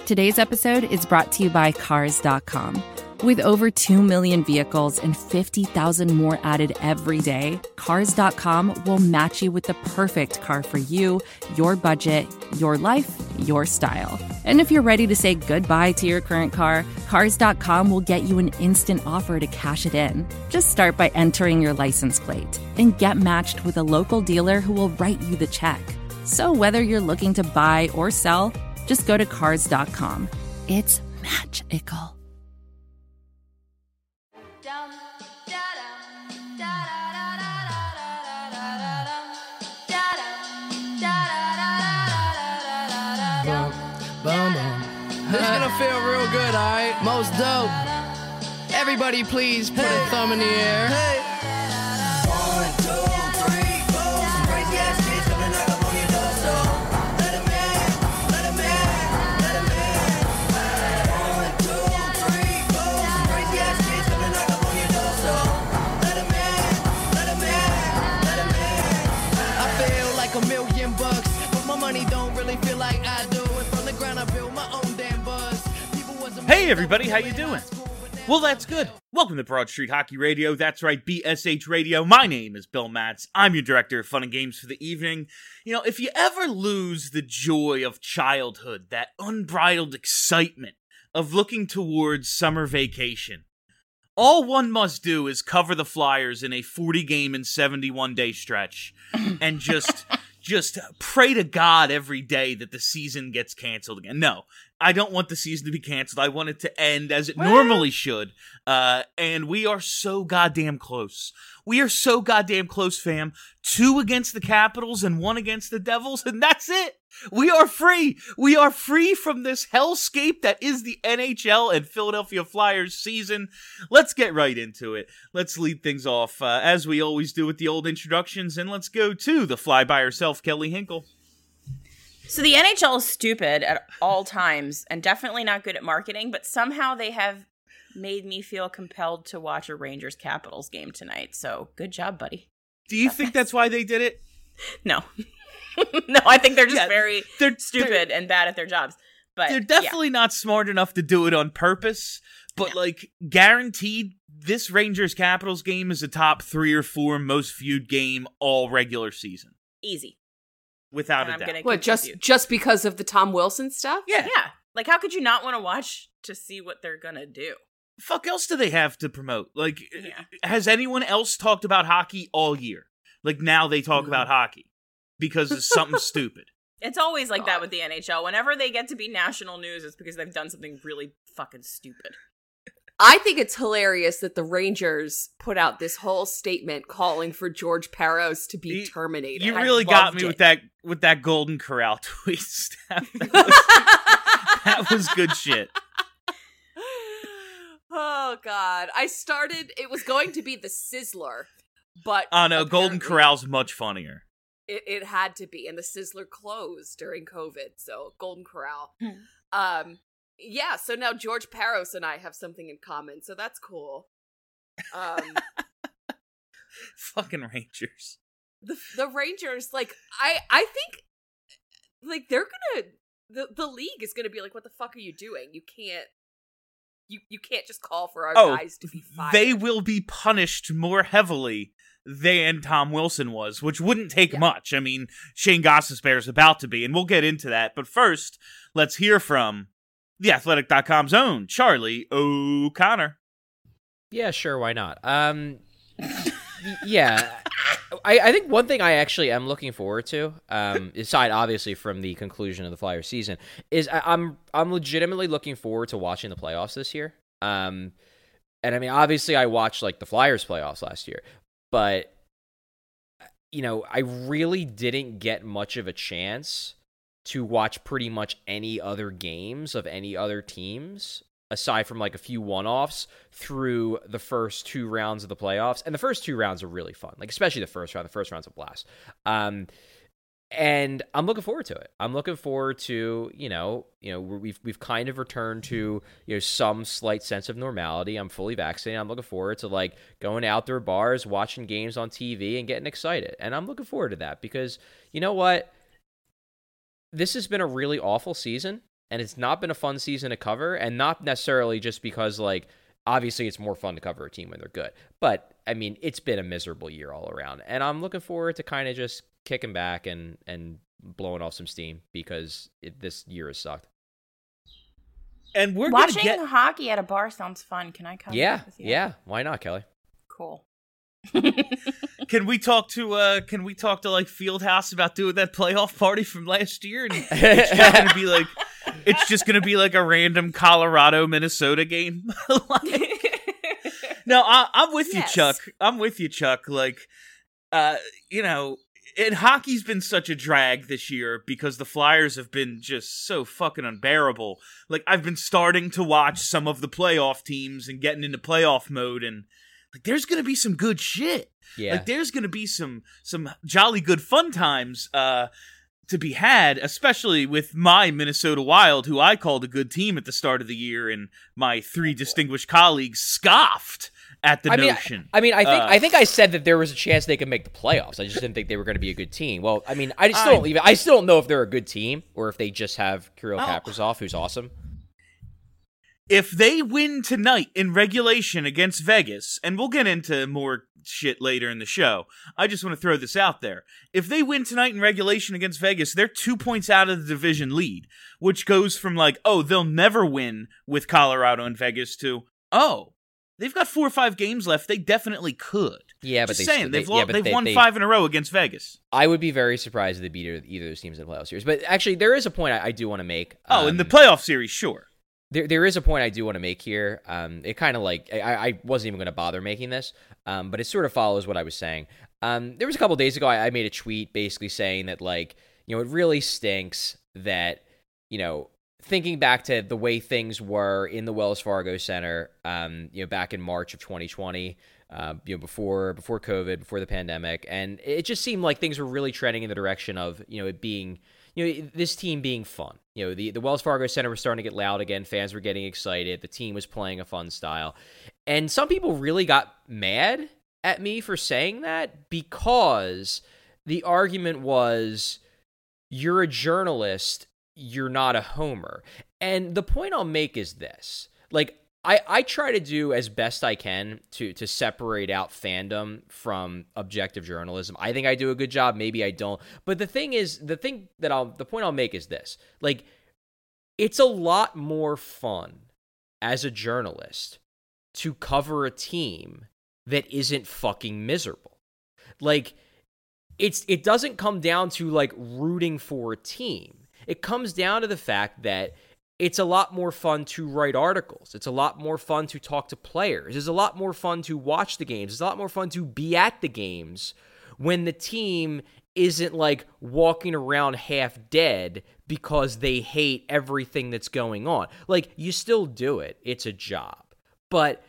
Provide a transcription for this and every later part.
Today's episode is brought to you by Cars.com. With over 2 million vehicles and 50,000 more added every day, Cars.com will match you with the perfect car for you, your budget, your life, your style. And if you're ready to say goodbye to your current car, Cars.com will get you an instant offer to cash it in. Just start by entering your license plate and get matched with a local dealer who will write you the check. So whether you're looking to buy or sell, just go to Cars.com. It's magical. This is gonna feel real good, alright? Most dope. Everybody please put a thumb in the air. Hey. 1, 2, 3, 4. Some crazy ass kids coming knock up on your door, so let 'em in, let 'em in, let 'em in. 1, 2, 3, 4. Some crazy ass kids coming knock up on your door, so let 'em in, let 'em in, let 'em in. I feel like $1,000,000, but my money don't really feel like I do. And from the ground I build my own damn buzz. Hey everybody, how you doing? Well, that's good. Welcome to Broad Street Hockey Radio. That's right, BSH Radio. My name is Bill Matz. I'm your director of fun and games for the evening. You know, if you ever lose the joy of childhood, that unbridled excitement of looking towards summer vacation, all one must do is cover the Flyers in a 40-game and 71-day stretch and just pray to God every day that the season gets canceled again. No, I don't want the season to be canceled. I want it to end as it normally should. And we are so goddamn close. We are so goddamn close, fam. 2 against the Capitals and 1 against the Devils, and that's it. We are free. We are free from this hellscape that is the NHL and Philadelphia Flyers season. Let's get right into it. Let's lead things off, as we always do with the old introductions, and let's go to the fly by herself, Kelly Hinkle. So the NHL is stupid at all times and definitely not good at marketing, but somehow they have made me feel compelled to watch a Rangers-Capitals game tonight. So good job, buddy. Do you think that's why they did it? No. No, I think they're just they're stupid and bad at their jobs. But they're definitely not smart enough to do it on purpose. But, guaranteed, this Rangers-Capitals game is a top 3 or 4 most viewed game all regular season. Easy. Without a doubt. What, just because of the Tom Wilson stuff? Yeah. Yeah. Like, how could you not want to watch to see what they're gonna do? Fuck else do they have to promote? Has anyone else talked about hockey all year? Like, now they talk about hockey because it's something stupid. It's always like that with the NHL. Whenever they get to be national news, it's because they've done something really fucking stupid. I think it's hilarious that the Rangers put out this whole statement calling for George Parros to be terminated. You really got me with that Golden Corral tweet, Steph. That was good shit. Oh, God. It was going to be the Sizzler, but... Oh, no, Golden Corral's much funnier. It had to be, and the Sizzler closed during COVID, so Golden Corral. Yeah, so now George Parros and I have something in common, so that's cool. Fucking Rangers. The Rangers, I think, they're gonna... The league is gonna be like, what the fuck are you doing? You can't just call for our guys to be fired. They will be punished more heavily than Tom Wilson was, which wouldn't take much. I mean, Shane Gostisbehere is about to be, and we'll get into that. But first, let's hear from TheAthletic.com's own Charlie O'Connor. Yeah, sure, why not? Yeah, I think one thing I actually am looking forward to, aside obviously from the conclusion of the Flyers season, is I'm legitimately looking forward to watching the playoffs this year. And I mean, obviously I watched the Flyers playoffs last year, but I really didn't get much of a chance to watch pretty much any other games of any other teams aside from a few one-offs through the first 2 rounds of the playoffs. And the first 2 rounds are really fun, especially the first round. The first round's a blast. And I'm looking forward to it. I'm looking forward to, we've kind of returned to, some slight sense of normality. I'm fully vaccinated. I'm looking forward to going to outdoor bars, watching games on TV and getting excited. And I'm looking forward to that because you know what? This has been a really awful season. and it's not been a fun season to cover, and not necessarily just because, like, obviously it's more fun to cover a team when they're good. But, I mean, it's been a miserable year all around, and I'm looking forward to kind of just kicking back and blowing off some steam because this year has sucked. And we're watching gonna get hockey at a bar sounds fun. Can I come? With you? Yeah. Why not, Kelly? Cool. Can we talk to like Fieldhouse about doing that playoff party from last year? And it's just gonna be like a random Colorado Minnesota game. No, I'm with you, Chuck. I'm with you, Chuck. Like, and hockey's been such a drag this year because the Flyers have been just so fucking unbearable. Like, I've been starting to watch some of the playoff teams and getting into playoff mode, and like, there's gonna be some good shit. Yeah. Like, there's gonna be some jolly good fun times to be had, especially with my Minnesota Wild, who I called a good team at the start of the year, and my three distinguished colleagues scoffed at the notion. I think I said that there was a chance they could make the playoffs. I just didn't think they were going to be a good team. Well, I mean, I still don't know if they're a good team or if they just have Kirill Kaprizov, who's awesome. If they win tonight in regulation against Vegas, and we'll get into more shit later in the show, I just want to throw this out there. If they win tonight in regulation against Vegas, they're 2 points out of the division lead, which goes from like, oh, they'll never win with Colorado and Vegas to, oh, they've got 4 or 5 games left. They definitely could. Yeah, but they've won 5 in a row against Vegas. I would be very surprised if they beat either of those teams in the playoff series. But actually, there is a point I do want to make. In the playoff series, sure. There is a point I do want to make here. It kind of like, I wasn't even going to bother making this, but it sort of follows what I was saying. There was a couple days ago, I made a tweet basically saying that, like, it really stinks that, thinking back to the way things were in the Wells Fargo Center, back in March of 2020, before COVID, before the pandemic, and it just seemed like things were really trending in the direction of, it being, this team being fun. The Wells Fargo Center was starting to get loud again. Fans were getting excited. The team was playing a fun style. And some people really got mad at me for saying that because the argument was, you're a journalist, you're not a homer. And the point I'll make is this. Like, I try to do as best I can to separate out fandom from objective journalism. I think I do a good job. Maybe I don't. But the point I'll make is this. Like, it's a lot more fun as a journalist to cover a team that isn't fucking miserable. Like, it doesn't come down to, like, rooting for a team. It comes down to the fact that it's a lot more fun to write articles. It's a lot more fun to talk to players. It's a lot more fun to watch the games. It's a lot more fun to be at the games when the team isn't, like, walking around half dead because they hate everything that's going on. Like, you still do it. It's a job. But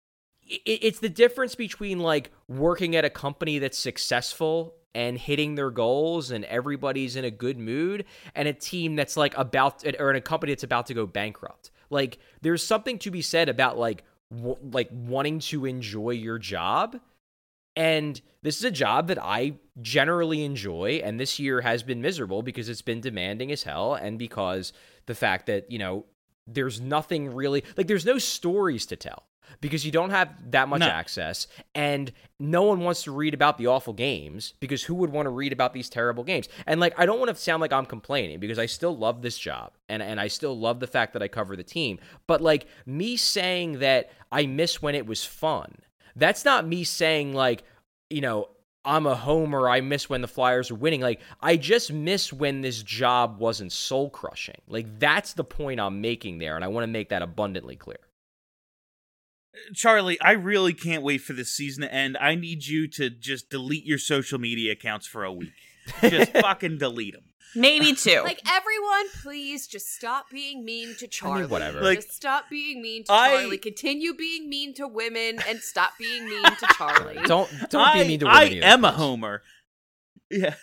it's the difference between, like, working at a company that's successful and hitting their goals and everybody's in a good mood, and a team that's like or in a company that's about to go bankrupt. Like, there's something to be said about like wanting to enjoy your job. And this is a job that I generally enjoy, and this year has been miserable because it's been demanding as hell, and because the fact that, there's nothing really, like, there's no stories to tell. Because you don't have that much access, and no one wants to read about the awful games, because who would want to read about these terrible games? And, like, I don't want to sound like I'm complaining, because I still love this job, and I still love the fact that I cover the team. But, like, me saying that I miss when it was fun, that's not me saying, like, I'm a homer, I miss when the Flyers are winning. Like, I just miss when this job wasn't soul-crushing. Like, that's the point I'm making there, and I want to make that abundantly clear. Charlie, I really can't wait for this season to end. I need you to just delete your social media accounts for a week. Just fucking delete them. Maybe 2. Like, everyone, please just stop being mean to Charlie. I mean, whatever. Like, just stop being mean to Charlie. Continue being mean to women and stop being mean to Charlie. Don't be mean to women. I am a homer. Yeah,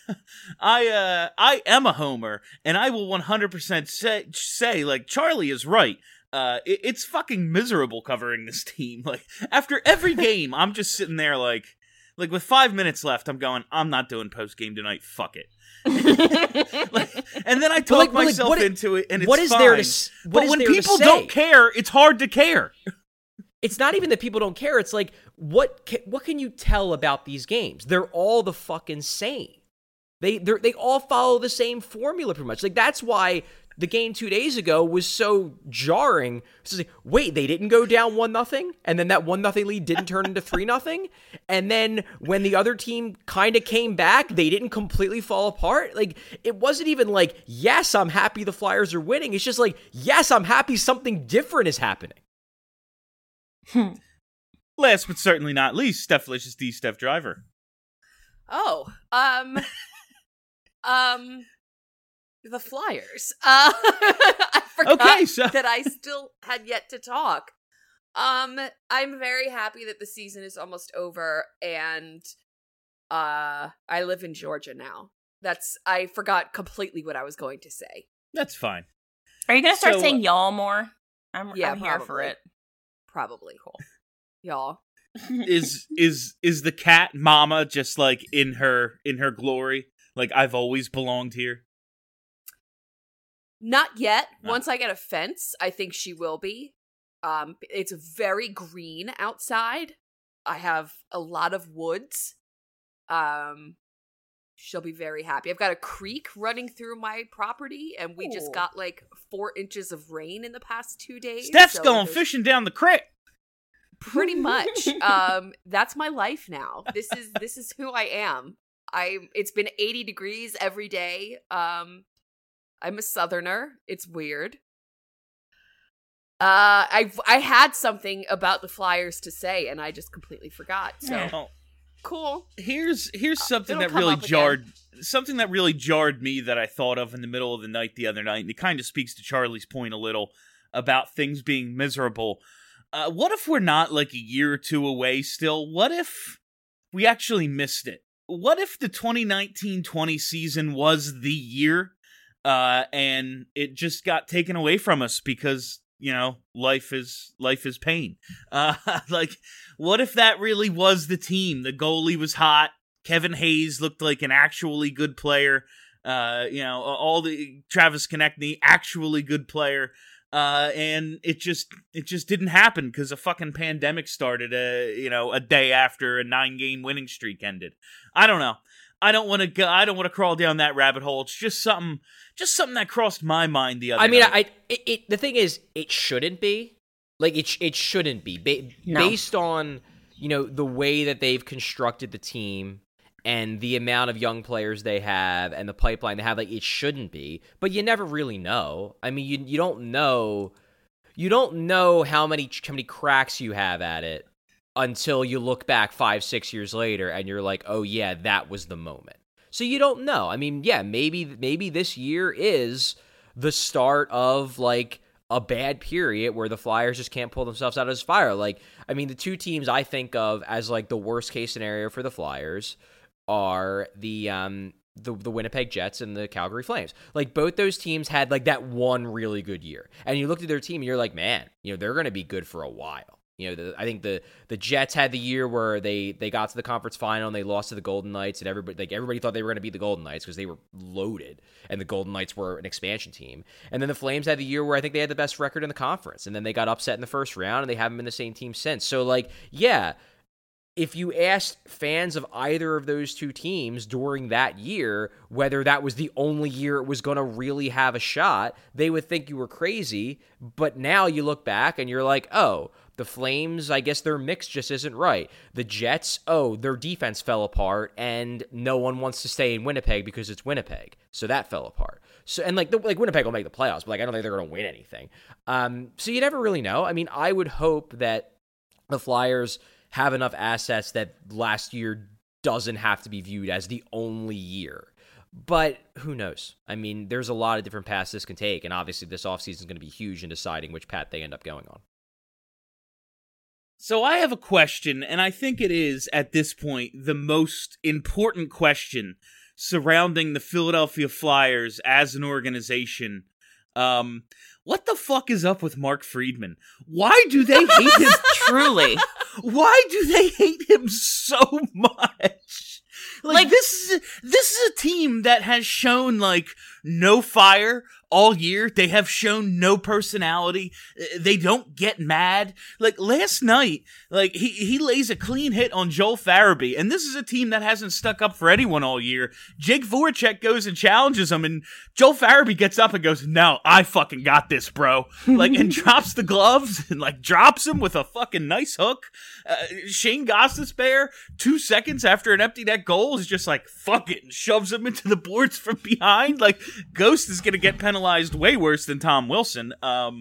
I am a homer, and I will 100% say, like, Charlie is right. It's fucking miserable covering this team. Like, after every game, I'm just sitting there like with 5 minutes left, I'm going, I'm not doing post game tonight. Fuck it. And then I talk myself into it, and it's what is fine. there to? But when people don't care, it's hard to care. It's not even that people don't care. It's like, what can you tell about these games? They're all the fucking same. They all follow the same formula pretty much. Like, that's why the game 2 days ago was so jarring. It's like, wait, they didn't go down 1-0, and then that 1-0 lead didn't turn into 3-0, and then when the other team kind of came back, they didn't completely fall apart. Like, it wasn't even like, yes, I'm happy the Flyers are winning. It's just like, yes, I'm happy something different is happening. Last but certainly not least, Steph-licious D. Steph Driver. Oh, the Flyers. I forgot that I still had yet to talk. I'm very happy that the season is almost over, and I live in Georgia now. I forgot completely what I was going to say. That's fine. Are you gonna start saying y'all more? I'm here for it. Probably. Cool. Y'all. Is the cat mama just like in her glory? Like, I've always belonged here? Not yet. Once I get a fence, I think she will be. It's very green outside. I have a lot of woods. She'll be very happy. I've got a creek running through my property, and we just got like 4 inches of rain in the past 2 days. Steph's going fishing down the creek. Pretty much. That's my life now. This is who I am. It's been 80 degrees every day. I'm a Southerner. It's weird. I had something about the Flyers to say, and I just completely forgot. So cool. Here's something that really jarred me that I thought of in the middle of the night the other night, and it kind of speaks to Charlie's point a little about things being miserable. What if we're not like a year or two away still? What if we actually missed it? What if the 2019-20 season was the year, and it just got taken away from us because, you know, life is pain. Like, what if that really was the team? The goalie was hot. Kevin Hayes looked like an actually good player. All the Travis Konechny, actually good player. And it just didn't happen because a fucking pandemic started, a day after a 9-game winning streak ended. I don't know. I don't want to crawl down that rabbit hole. It's just something that crossed my mind the other night. The thing is, it shouldn't be. Like, it shouldn't be. Based on, the way that they've constructed the team and the amount of young players they have and the pipeline they have, like, it shouldn't be. But you never really know. I mean, you don't know. You don't know how many cracks you have at it until you look back 5-6 years later and you're like, oh yeah, that was the moment. So you don't know. I mean, yeah, maybe this year is the start of like a bad period where the Flyers just can't pull themselves out of this fire. Like, I mean, the two teams I think of as like the worst case scenario for the Flyers are the Winnipeg Jets and the Calgary Flames. Like, both those teams had like that one really good year. And you looked at their team and you're like, man, they're going to be good for a while. I think the Jets had the year where they got to the conference final and they lost to the Golden Knights, and everybody thought they were going to beat the Golden Knights because they were loaded, and the Golden Knights were an expansion team. And then the Flames had the year where I think they had the best record in the conference, and then they got upset in the first round, and they haven't been the same team since. So, like, yeah, if you asked fans of either of those two teams during that year whether that was the only year it was going to really have a shot, they would think you were crazy. But now you look back and you're like, oh, the Flames, I guess their mix just isn't right. The Jets, their defense fell apart, and no one wants to stay in Winnipeg because it's Winnipeg, so that fell apart. So, and like Winnipeg will make the playoffs, but like I don't think they're going to win anything. So you never really know. I mean, I would hope that the Flyers have enough assets that last year doesn't have to be viewed as the only year. But who knows? I mean, there's a lot of different paths this can take, and obviously this offseason is going to be huge in deciding which path they end up going on. So I have a question, and I think it is, at this point, the most important question surrounding the Philadelphia Flyers as an organization. What the fuck is up with Mark Friedman? Why do they hate him? Truly. Why do they hate him so much? Like this is a team that has shown like no fire all year. They have shown no personality. They don't get mad. Like last night, like he lays a clean hit on Joel Farabee, and this is a team that hasn't stuck up for anyone all year. Jake Voracek goes and challenges him, and Joel Farabee gets up and goes, "No, I fucking got this, bro." Like, and drops the gloves and like drops him with a fucking nice hook. Shane Gostisbehere, 2 seconds after an empty net goal, is just like, fuck it, and shoves him into the boards from behind. Like, Ghost is gonna get penalized way worse than Tom Wilson.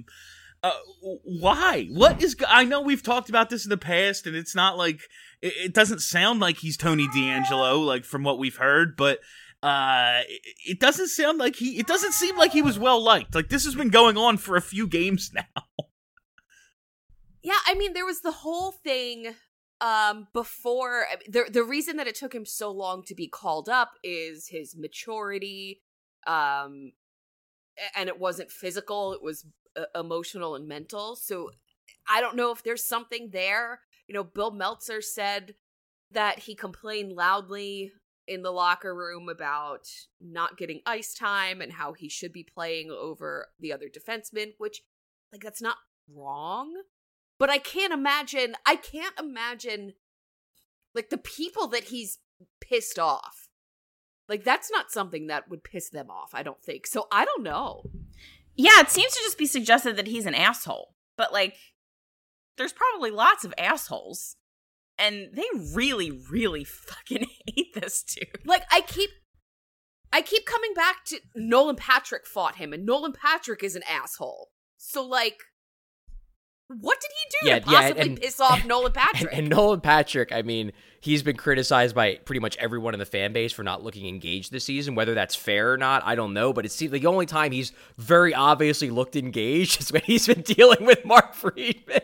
Why? What is... I know we've talked about this in the past, and it's not like... It doesn't sound like he's Tony D'Angelo, like, from what we've heard, but... it doesn't sound like he... It doesn't seem like he was well-liked. Like, this has been going on for a few games now. Yeah, I mean, there was the whole thing before... The reason that it took him so long to be called up is his maturity, and it wasn't physical, it was emotional and mental. So I don't know if there's something there. You know, Bill Meltzer said that he complained loudly in the locker room about not getting ice time and how he should be playing over the other defensemen, which, like, that's not wrong. But I can't imagine, like, the people that he's pissed off. Like, that's not something that would piss them off, I don't think. So I don't know. Yeah, it seems to just be suggested that he's an asshole. But, like, there's probably lots of assholes. And they really, really fucking hate this dude. Like, I keep coming back to Nolan Patrick fought him, and Nolan Patrick is an asshole. So, like, what did he do to possibly piss off Nolan Patrick? And Nolan Patrick, I mean, he's been criticized by pretty much everyone in the fan base for not looking engaged this season. Whether that's fair or not, I don't know. But it seems like the only time he's very obviously looked engaged is when he's been dealing with Mark Friedman.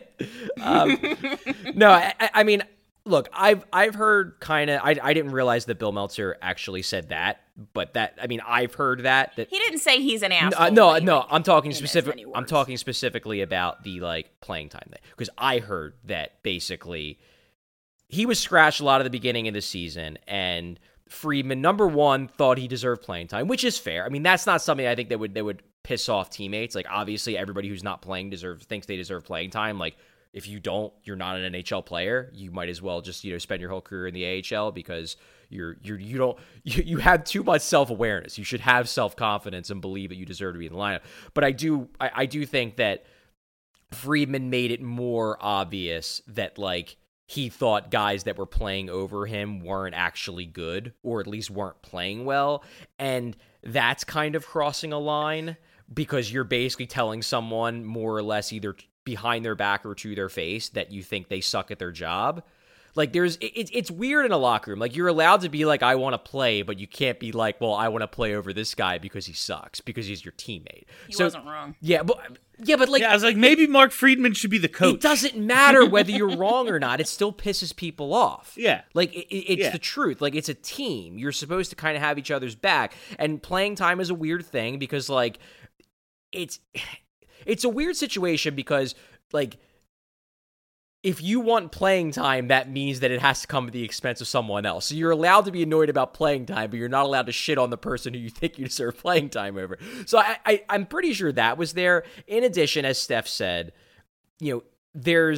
No, I mean, look, I've heard kind of. I didn't realize that Bill Meltzer actually said that, but that, I mean, I've heard that he didn't say he's an asshole. No, I'm talking specific. I'm talking specifically about the like playing time thing, because I heard that basically he was scratched a lot at the beginning of the season, and Friedman, number one, thought he deserved playing time, which is fair. I mean, that's not something I think that would piss off teammates. Like, obviously, everybody who's not playing thinks they deserve playing time. Like, if you don't, you're not an NHL player. You might as well just, spend your whole career in the AHL, because you have too much self-awareness. You should have self-confidence and believe that you deserve to be in the lineup. But I do think that Friedman made it more obvious that, like, he thought guys that were playing over him weren't actually good, or at least weren't playing well. And that's kind of crossing a line, because you're basically telling someone more or less either behind their back or to their face that you think they suck at their job. Like, it's weird in a locker room. Like, you're allowed to be like, I want to play, but you can't be like, well, I want to play over this guy because he sucks, because he's your teammate. He wasn't wrong. Yeah, but like, I was like, maybe Mark Friedman should be the coach. It doesn't matter whether you're wrong or not. It still pisses people off. Yeah. Like, it's the truth. Like, it's a team. You're supposed to kind of have each other's back. And playing time is a weird thing, because, like, it's a weird situation, because, like, if you want playing time, that means that it has to come at the expense of someone else. So you're allowed to be annoyed about playing time, but you're not allowed to shit on the person who you think you deserve playing time over. So I'm pretty sure that was there. In addition, as Steph said, there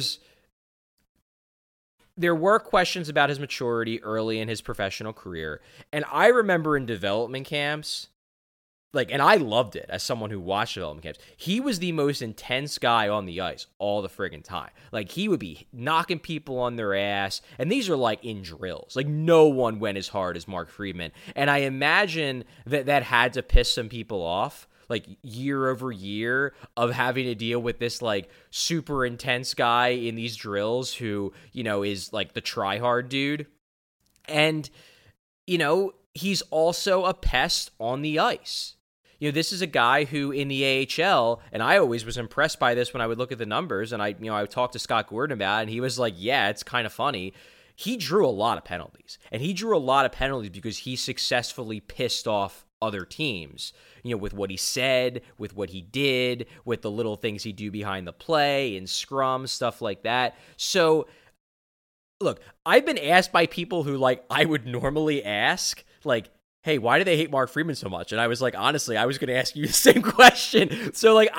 were questions about his maturity early in his professional career. And I remember in development camps, like, and I loved it as someone who watched development camps, he was the most intense guy on the ice all the friggin' time. Like, he would be knocking people on their ass, and these are, like, in drills. Like, no one went as hard as Mark Friedman. And I imagine that had to piss some people off, like, year over year, of having to deal with this, like, super intense guy in these drills who, is, like, the try-hard dude. And, he's also a pest on the ice. This is a guy who in the AHL, and I always was impressed by this when I would look at the numbers, and I talked to Scott Gordon about it, and he was like, yeah, it's kind of funny. He drew a lot of penalties, and he drew a lot of penalties because he successfully pissed off other teams, with what he said, with what he did, with the little things he do behind the play, in scrum, stuff like that. So Look, I've been asked by people who, like, I would normally ask, like, hey, why do they hate Mark Friedman so much? And I was like, honestly, I was going to ask you the same question. So, like,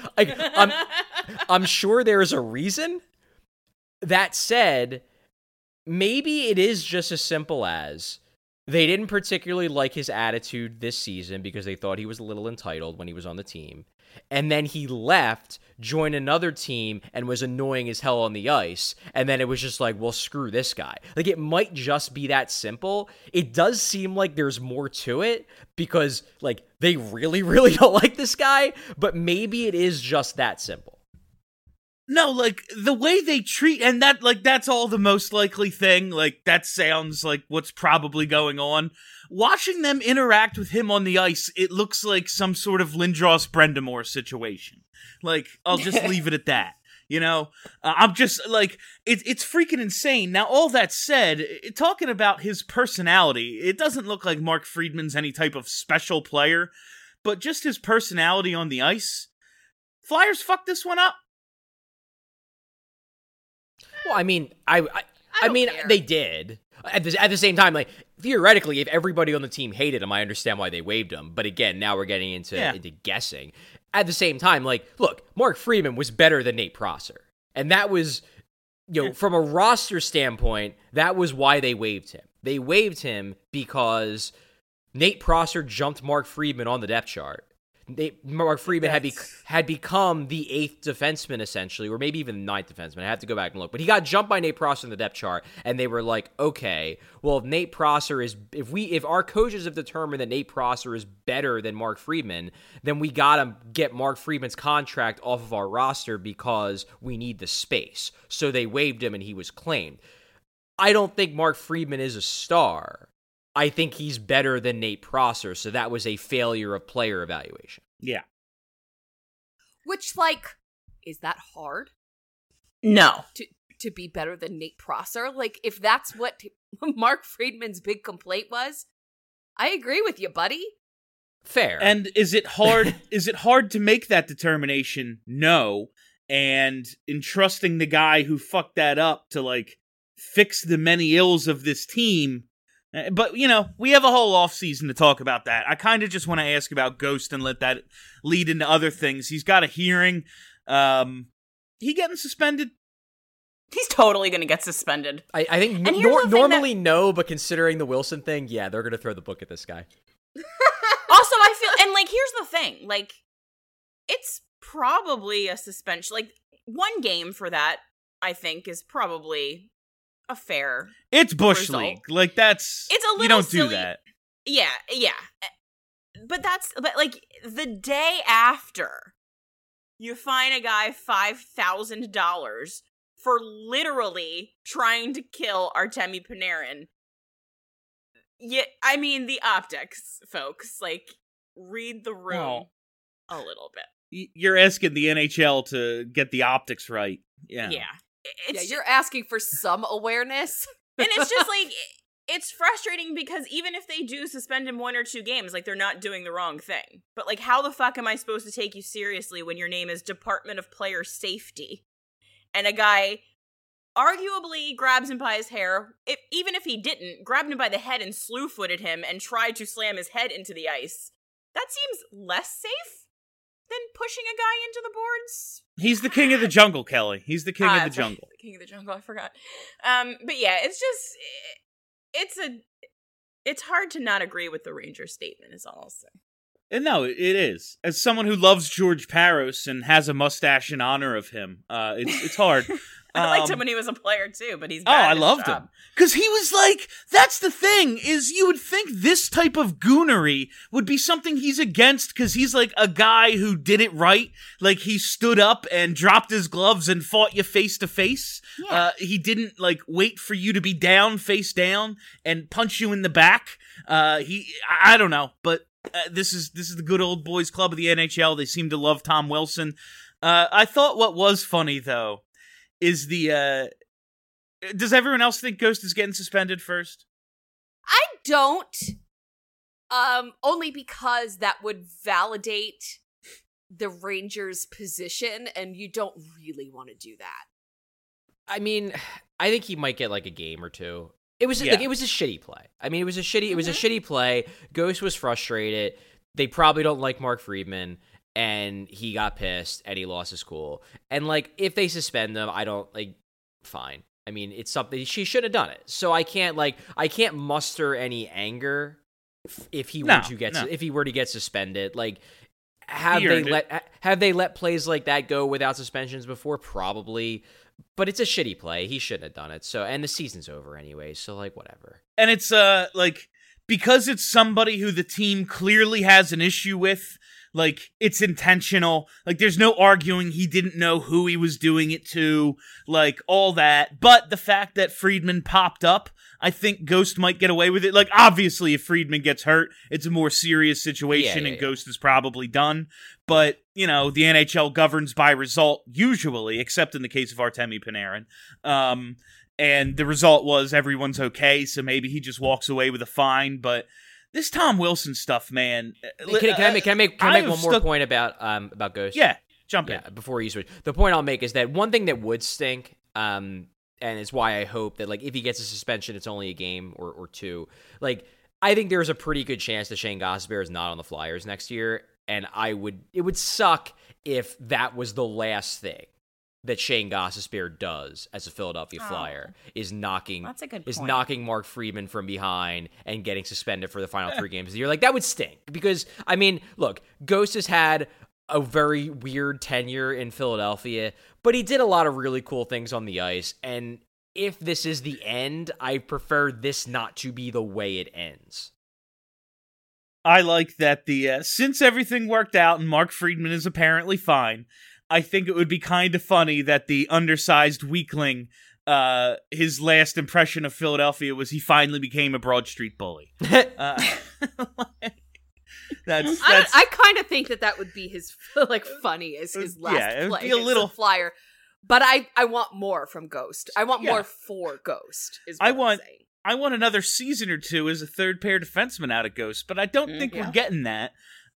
I'm sure there is a reason. That said, maybe it is just as simple as they didn't particularly like his attitude this season because they thought he was a little entitled when he was on the team. And then he left, joined another team, and was annoying as hell on the ice. And then it was just like, well, screw this guy. Like, it might just be that simple. It does seem like there's more to it because, like, they really, really don't like this guy. But maybe it is just that simple. No, like, the way they treat, and that, like, that's all the most likely thing. Like, that sounds like what's probably going on. Watching them interact with him on the ice, it looks like some sort of Lindros Brendamore situation. Like, I'll just leave it at that. You know, I'm just like, it's freaking insane. Now, all that said, talking about his personality, it doesn't look like Mark Friedman's any type of special player, but just his personality on the ice. Flyers fucked this one up. Well, I mean, I mean, care. they did. At the same time, like, theoretically, if everybody on the team hated him, I understand why they waived him. But again, now we're getting into guessing. At the same time, like, look, Mark Friedman was better than Nate Prosser. And that was, you know, from a roster standpoint, that was why they waived him. They waived him because Nate Prosser jumped Mark Friedman on the depth chart. Mark Friedman had become the 8th defenseman, essentially, or maybe even the 9th defenseman. I have to go back and look. But he got jumped by Nate Prosser in the depth chart, and they were like, okay, well, if Nate Prosser is, if our coaches have determined that Nate Prosser is better than Mark Friedman, then we gotta get Mark Friedman's contract off of our roster because we need the space. So they waived him, and he was claimed. I don't think Mark Friedman is a star. I think he's better than Nate Prosser, so that was a failure of player evaluation. Yeah. Which, like, is that hard? No. To be better than Nate Prosser? Like, if that's what Mark Friedman's big complaint was, I agree with you, buddy. Fair. And is it hard? Is it hard to make that determination? No. And entrusting the guy who fucked that up to, like, fix the many ills of this team. But, you know, we have a whole offseason to talk about that. I kind of just want to ask about Ghost and let that lead into other things. He's got a hearing. He getting suspended? He's totally going to get suspended. I think normally no, but considering the Wilson thing, yeah, they're going to throw the book at this guy. Also, I feel, and, like, here's the thing. Like, it's probably a suspension. Like, 1 game for that, I think, is probably a fair It's Bush result. League. Like, that's... It's a little You don't silly. do that. Yeah. But like, the day after, you fine a guy $5,000 for literally trying to kill Artemi Panarin. Yeah, I mean, the optics, folks. Like, read the room a little bit. You're asking the NHL to get the optics right. Yeah. You're asking for some awareness. And it's just like, it's frustrating because even if they do suspend him 1 or 2 games, like, they're not doing the wrong thing. But, like, how the fuck am I supposed to take you seriously when your name is Department of Player Safety? And a guy arguably grabs him by his hair, even if he didn't, grabbed him by the head and slew-footed him and tried to slam his head into the ice. That seems less safe than pushing a guy into the boards. He's the king of the jungle, Kelly. He's the king of the jungle. The king of the jungle, I forgot. But yeah, it's just, it's hard to not agree with the Rangers statement, is all I'll say. And no, it is. As someone who loves George Parros and has a mustache in honor of him, it's hard. I liked him when he was a player too, but he's bad I at his loved job. him. Because he was like, that's the thing, is you would think this type of goonery would be something he's against, because he's like a guy who did it right. Like, he stood up and dropped his gloves and fought you face to face. He didn't, like, wait for you to be down, face down, and punch you in the back. I don't know, but this is the good old boys club of the NHL. They seem to love Tom Wilson. I thought what was funny, though, is does everyone else think Ghost is getting suspended first? I don't. Only because that would validate the Rangers' position, and you don't really want to do that. I mean, I think he might get like a game or two. It was Yeah. like it was a shitty play. I mean, it was a shitty play. Ghost was frustrated. They probably don't like Mark Friedman, and he got pissed and he lost his cool. And like, if they suspend them, I don't like. Fine. I mean, it's something she should have done it. So I can't muster any anger if he were to get suspended. Like, have they let plays like that go without suspensions before? Probably. But it's a shitty play. He shouldn't have done it. So, and the season's over anyway. So, like, whatever. And it's like, because it's somebody who the team clearly has an issue with. Like, it's intentional. Like, there's no arguing he didn't know who he was doing it to. Like, all that. But the fact that Friedman popped up, I think Ghost might get away with it. Like, obviously, if Friedman gets hurt, it's a more serious situation, and Ghost is probably done. But, you know, the NHL governs by result, usually, except in the case of Artemi Panarin. And the result was everyone's okay, so maybe he just walks away with a fine, but... This Tom Wilson stuff, man. Can I make one more point about Ghost? Yeah, jump in. Before you switch. The point I'll make is that one thing that would stink, and it's why I hope that like if he gets a suspension, it's only a game or two. Like I think there's a pretty good chance that Shane Gostisbehere is not on the Flyers next year, and it would suck if that was the last thing that Shane Gostisbehere does as a Philadelphia Flyer is knocking Mark Friedman from behind and getting suspended for the final 3 games of the year. Like, that would stink. Because, I mean, look, Ghost has had a very weird tenure in Philadelphia, but he did a lot of really cool things on the ice. And if this is the end, I prefer this not to be the way it ends. I like that since everything worked out and Mark Friedman is apparently fine, I think it would be kind of funny that the undersized weakling, his last impression of Philadelphia was he finally became a Broad Street bully. That's I kind of think that would be his like funny as his last play. Be a little Flyer, but I want more from Ghost. I want more for Ghost. Is what I'm saying. I want another season or two as a third pair defenseman out of Ghost, but I don't think we're getting that.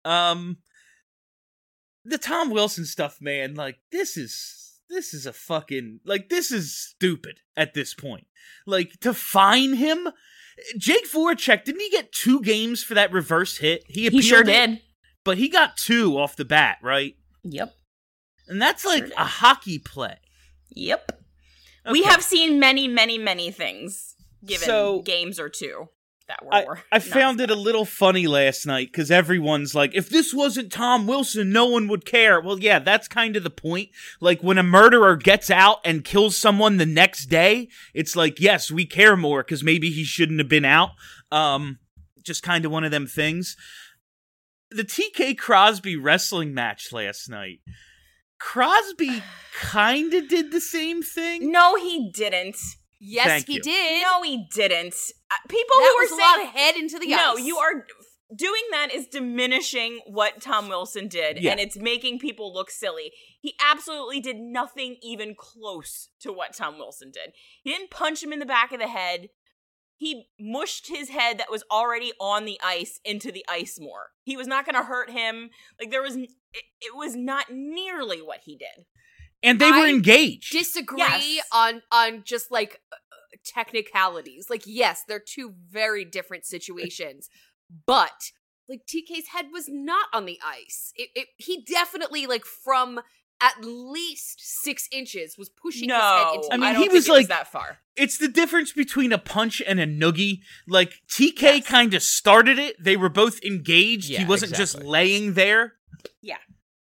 The Tom Wilson stuff, man, like, this is a fucking, like, this is stupid at this point. Like, to fine him? Jake Voracek, didn't he get 2 games for that reverse hit? He sure did. But he got 2 off the bat, right? Yep. And that's like a hockey play. Yep. Okay. We have seen many, many, many things given games or 2. That were I found it a little funny last night because everyone's like, if this wasn't Tom Wilson, no one would care. Well, yeah, that's kind of the point. Like, when a murderer gets out and kills someone the next day, it's like, yes, we care more because maybe he shouldn't have been out. Just kind of one of them things. The TK Crosby wrestling match last night. Crosby kind of did the same thing. No, he didn't. Yes, he did. No, he didn't. People that who are was saying, a lot of head into the ice. No, you are doing that is diminishing what Tom Wilson did, and it's making people look silly. He absolutely did nothing even close to what Tom Wilson did. He didn't punch him in the back of the head. He mushed his head that was already on the ice into the ice more. He was not going to hurt him. Like, it was not nearly what he did. And they were engaged. Disagree on just like technicalities. Like, yes, they're 2 very different situations, but like TK's head was not on the ice. He definitely like from at least 6 inches was pushing his head into. I mean, he was like that far. It's the difference between a punch and a noogie. Like, TK kind of started it. They were both engaged. Yeah, he wasn't just laying there. Yeah.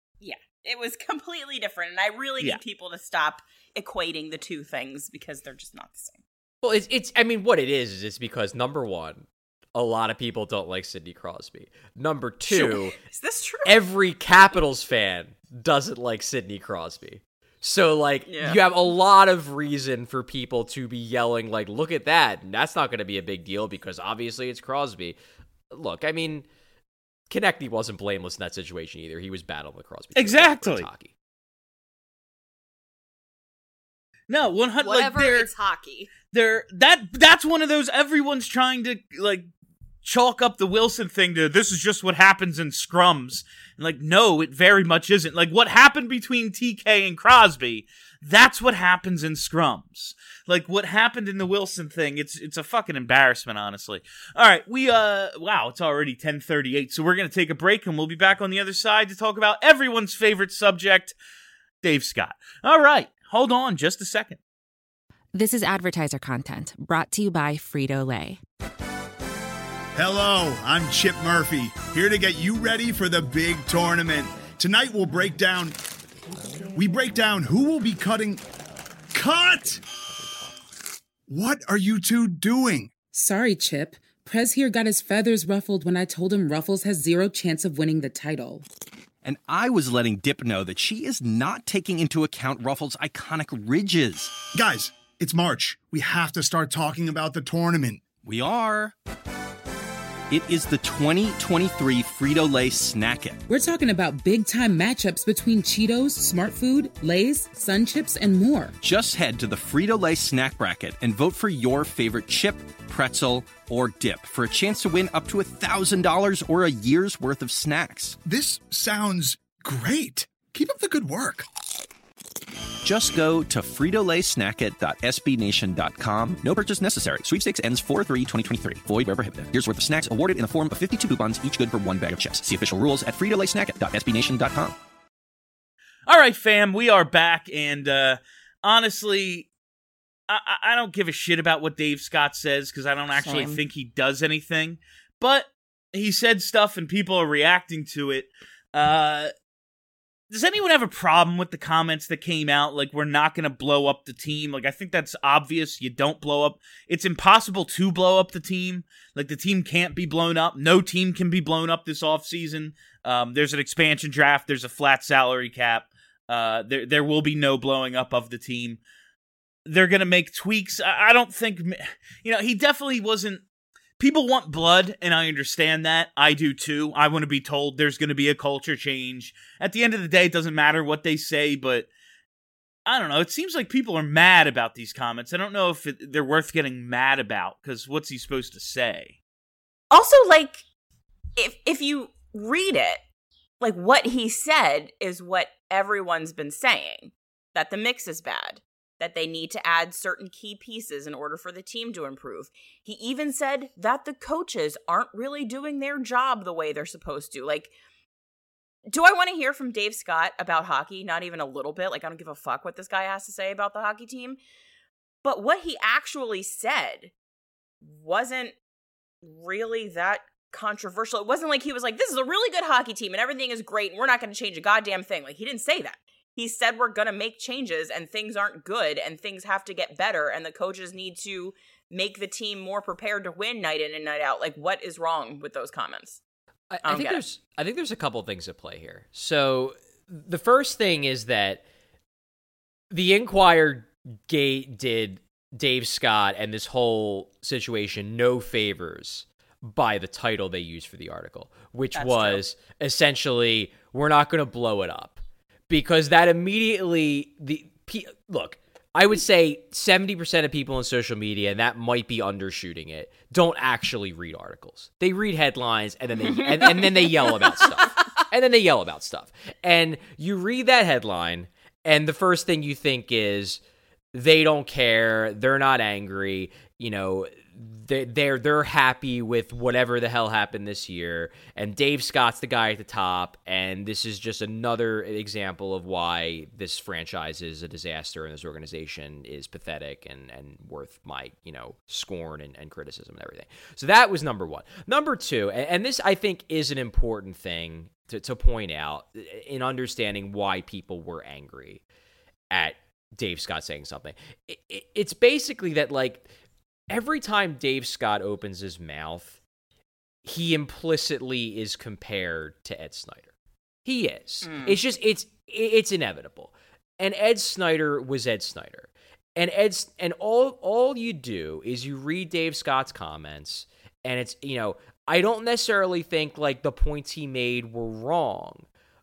It was completely different, and I really need people to stop equating the 2 things because they're just not the same. Well, it's I mean, what it is it's because, number 1, a lot of people don't like Sidney Crosby. Number 2, is this true? Every Capitals fan doesn't like Sidney Crosby. So, like, you have a lot of reason for people to be yelling, like, look at that, and that's not going to be a big deal because obviously it's Crosby. Look, I mean... Konechny wasn't blameless in that situation either. He was battling with Crosby. Exactly. Hockey. No, 100. Whatever. Like, it's hockey. That's one of those. Everyone's trying to like chalk up the Wilson thing to this is just what happens in scrums. And like, no, it very much isn't. Like, what happened between TK and Crosby, that's what happens in scrums. Like, what happened in the Wilson thing, it's a fucking embarrassment, honestly. All right, wow, it's already 10:38, so we're going to take a break, and we'll be back on the other side to talk about everyone's favorite subject, Dave Scott. All right, hold on just a second. This is advertiser content brought to you by Frito-Lay. Hello, I'm Chip Murphy, here to get you ready for the big tournament. Tonight we'll break down who will be cutting... Cut! What are you two doing? Sorry, Chip. Prez here got his feathers ruffled when I told him Ruffles has zero chance of winning the title. And I was letting Dip know that she is not taking into account Ruffles' iconic ridges. Guys, it's March. We have to start talking about the tournament. We are. It is the 2023 Frito-Lay Snack It. We're talking about big-time matchups between Cheetos, Smart Food, Lay's, Sun Chips, and more. Just head to the Frito-Lay Snack Bracket and vote for your favorite chip, pretzel, or dip for a chance to win up to $1,000 or a year's worth of snacks. This sounds great. Keep up the good work. Just go to fritolaysnackit.sbnation.com. No purchase necessary. Sweepstakes ends 4/3/2023. Void where prohibited. Here's worth of snacks awarded in the form of 52 coupons, each good for one bag of chips. See official rules at fritolaysnackit.sbnation.com. All right, fam, we are back, and honestly, I don't give a shit about what Dave Scott says, because I don't actually think he does anything, but he said stuff and people are reacting to it. Does anyone have a problem with the comments that came out? Like, we're not going to blow up the team. Like, I think that's obvious. You don't blow up. It's impossible to blow up the team. Like, the team can't be blown up. No team can be blown up this offseason. There's an expansion draft. There's a flat salary cap. There will be no blowing up of the team. They're going to make tweaks. I don't think... he definitely wasn't... People want blood, and I understand that. I do too. I want to be told there's going to be a culture change. At the end of the day, it doesn't matter what they say, but I don't know. It seems like people are mad about these comments. I don't know if they're worth getting mad about, because what's he supposed to say? Also, like, if you read it, like, what he said is what everyone's been saying, that the mix is bad, that they need to add certain key pieces in order for the team to improve. He even said that the coaches aren't really doing their job the way they're supposed to. Like, do I want to hear from Dave Scott about hockey? Not even a little bit. Like, I don't give a fuck what this guy has to say about the hockey team. But what he actually said wasn't really that controversial. It wasn't like he was like, this is a really good hockey team and everything is great and we're not going to change a goddamn thing. Like, he didn't say that. He said we're going to make changes and things aren't good and things have to get better and the coaches need to make the team more prepared to win night in and night out. Like, what is wrong with those comments? I think there's a couple things at play here. So the first thing is that the Inquirer did Dave Scott and this whole situation no favors by the title they used for the article, which was essentially, we're not going to blow it up. Because that immediately, look, I would say 70% of people on social media, and that might be undershooting it, don't actually read articles. They read headlines, and then they and then they yell about stuff. And you read that headline, and the first thing you think is, they don't care, they're not angry, they're happy with whatever the hell happened this year, and Dave Scott's the guy at the top, and this is just another example of why this franchise is a disaster and this organization is pathetic and worth my scorn and criticism and everything. So that was number one. Number two, and this I think is an important thing to point out in understanding why people were angry at Dave Scott saying something. It's basically that, like, every time Dave Scott opens his mouth, he implicitly is compared to Ed Snyder. He is. It's just it's inevitable. And Ed Snyder was Ed Snyder. And all you do is you read Dave Scott's comments, and it's I don't necessarily think like the points he made were wrong,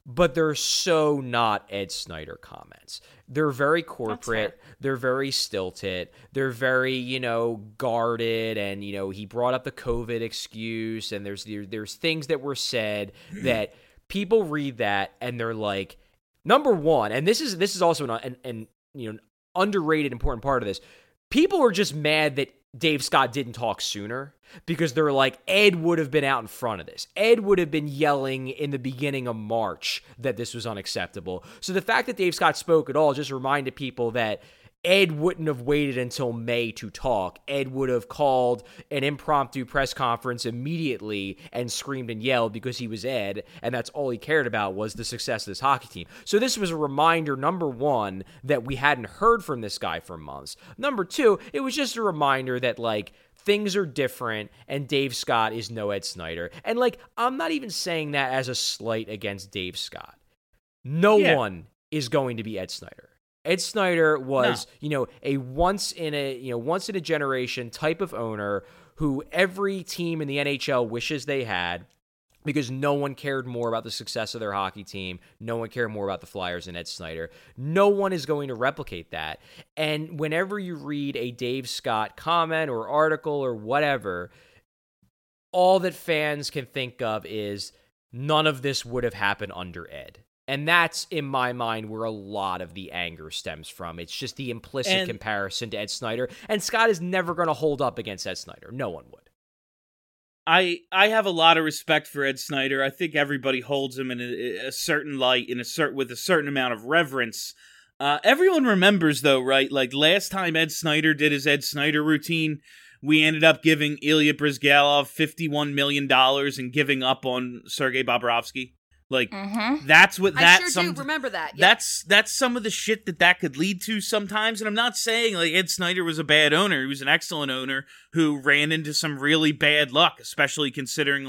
but they're so not Ed Snyder comments. They're very corporate. They're very stilted. They're very, guarded. And, he brought up the COVID excuse. And there's things that were said that people read that and they're like, number one, and this is also an underrated important part of this. People are just mad that Dave Scott didn't talk sooner because they're like, Ed would have been out in front of this. Ed would have been yelling in the beginning of March that this was unacceptable. So the fact that Dave Scott spoke at all just reminded people that Ed wouldn't have waited until May to talk. Ed would have called an impromptu press conference immediately and screamed and yelled because he was Ed, and that's all he cared about was the success of this hockey team. So this was a reminder, number one, that we hadn't heard from this guy for months. Number two, it was just a reminder that, things are different, and Dave Scott is no Ed Snyder. And, I'm not even saying that as a slight against Dave Scott. No one is going to be Ed Snyder. Ed Snyder was, a once in a generation type of owner who every team in the NHL wishes they had because no one cared more about the success of their hockey team. No one cared more about the Flyers than Ed Snyder. No one is going to replicate that. And whenever you read a Dave Scott comment or article or whatever, all that fans can think of is none of this would have happened under Ed. And that's, in my mind, where a lot of the anger stems from. It's just the implicit comparison to Ed Snyder. And Scott is never going to hold up against Ed Snyder. No one would. I have a lot of respect for Ed Snyder. I think everybody holds him in a certain light, with a certain amount of reverence. Everyone remembers, though, right? Last time Ed Snyder did his Ed Snyder routine, we ended up giving Ilya Bryzgalov $51 million and giving up on Sergei Bobrovsky. That's what that. I sure do remember that. Yeah. That's some of the shit that could lead to sometimes. And I'm not saying Ed Snyder was a bad owner. He was an excellent owner who ran into some really bad luck, especially considering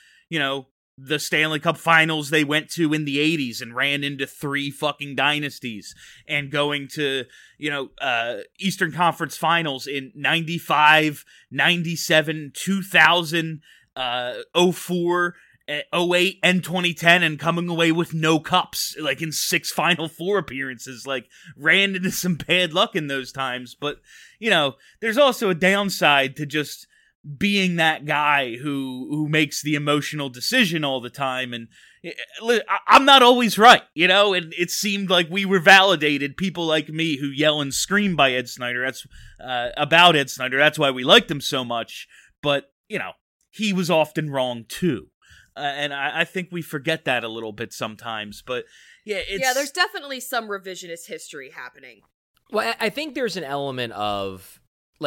the Stanley Cup Finals they went to in the 80s and ran into 3 fucking dynasties, and going to Eastern Conference Finals in 95, 97, 2000, 04. 08 and 2010 and coming away with no cups, in 6 Final Four appearances, ran into some bad luck in those times. But, there's also a downside to just being that guy who makes the emotional decision all the time. And I'm not always right, and it seemed like we were validated, people like me who yell and scream by Ed Snyder. That's about Ed Snyder. That's why we liked him so much. But, he was often wrong too. And I think we forget that a little bit sometimes, but there's definitely some revisionist history happening. Well, I think there's an element of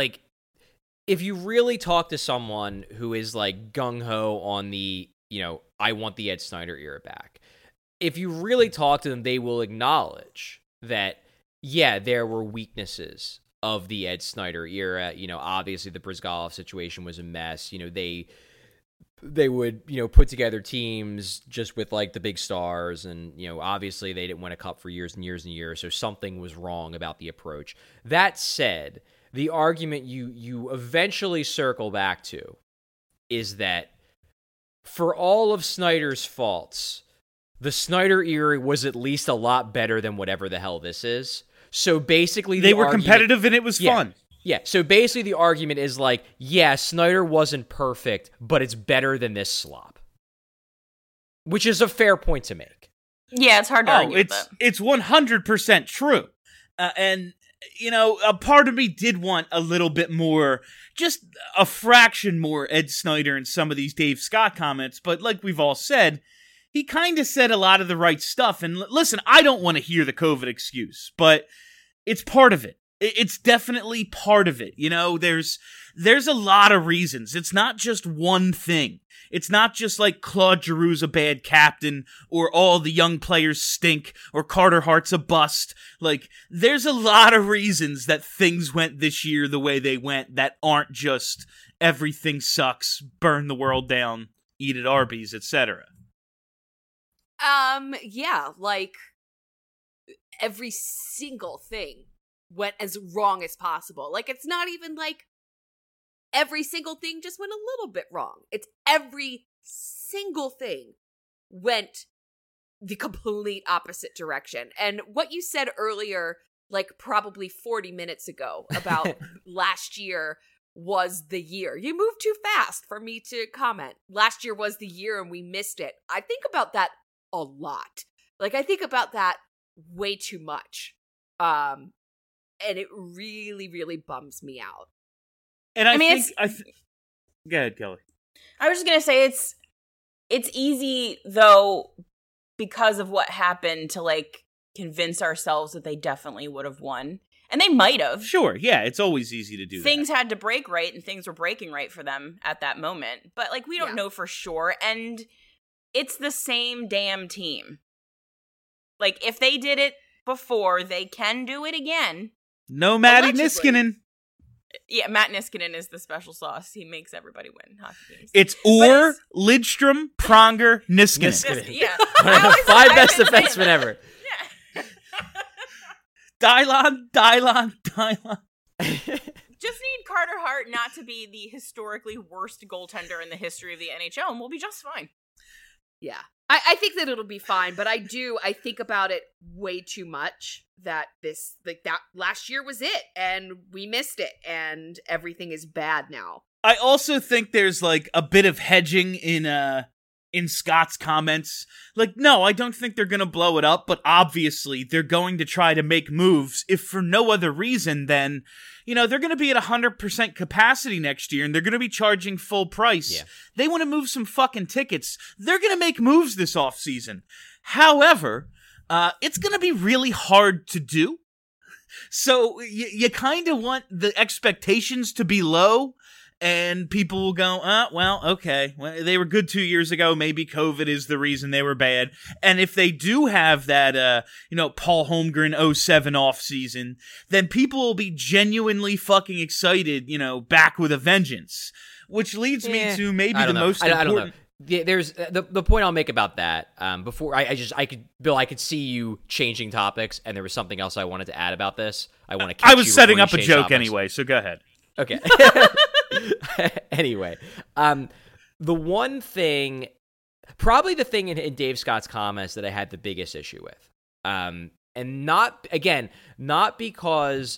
if you really talk to someone who is gung-ho on the, I want the Ed Snyder era back. If you really talk to them, they will acknowledge that, there were weaknesses of the Ed Snyder era. Obviously the Bryzgalov situation was a mess. They would, put together teams just with the big stars, and obviously they didn't win a cup for years and years and years, so something was wrong about the approach. That said, the argument you eventually circle back to is that for all of Snyder's faults, the Snyder era was at least a lot better than whatever the hell this is. So basically they were competitive and it was fun. Yeah, so basically the argument is Snyder wasn't perfect, but it's better than this slop. Which is a fair point to make. Yeah, it's hard to argue with that. It's 100% true. And, a part of me did want a little bit more, just a fraction more Ed Snyder in some of these Dave Scott comments, but like we've all said, he kind of said a lot of the right stuff. And listen, I don't want to hear the COVID excuse, but it's part of it. It's definitely part of it. There's a lot of reasons. It's not just one thing. It's not just Claude Giroux's a bad captain, or all the young players stink, or Carter Hart's a bust. There's a lot of reasons that things went this year the way they went that aren't just everything sucks, burn the world down, eat at Arby's, etc. Every single thing went as wrong as possible. It's not even every single thing just went a little bit wrong. It's every single thing went the complete opposite direction. And what you said earlier, like probably 40 minutes ago about last year was the year. You moved too fast for me to comment. Last year was the year and we missed it. I think about that a lot. Like, I think about that way too much. And it really, really bums me out. And I think go ahead, Kelly. I was just going to say it's easy, though, because of what happened, to, like, convince ourselves that they definitely would have won. And they might have. Sure, yeah, it's always easy to do Things had to break right, and things were breaking right for them at that moment. But, like, we don't know for sure, and it's the same damn team. Like, if they did it before, they can do it again. No Matty Niskanen. Yeah, Matt Niskanen is the special sauce. He makes everybody win hockey games. It's Orr, Lidstrom, Pronger, Niskanen. Yeah. 5 best defensemen ever. Yeah. Dylon. Just need Carter Hart not to be the historically worst goaltender in the history of the NHL, and we'll be just fine. Yeah. I think that it'll be fine, but I think about it way too much that that last year was it, and we missed it, and everything is bad now. I also think there's, like, a bit of hedging in Scott's comments. Like, no, I don't think they're gonna blow it up, but obviously they're going to try to make moves, if for no other reason than, you know, they're gonna be at 100% capacity next year, and they're gonna be charging full price. Yeah. They want to move some fucking tickets. They're gonna make moves this offseason. However, it's gonna be really hard to do. So you kind of want the expectations to be low, and people will go, well, okay. Well, they were good 2 years ago. Maybe COVID is the reason they were bad. And if they do have that, Paul Holmgren 07 offseason, then people will be genuinely fucking excited, back with a vengeance. Which leads me to maybe the most important... I don't know. There's the point I'll make about that. Before I could see you changing topics, and there was something else I wanted to add about this. I was setting up a joke anyway, so go ahead. Okay. Anyway, the one thing, probably the thing in Dave Scott's comments that I had the biggest issue with, and not because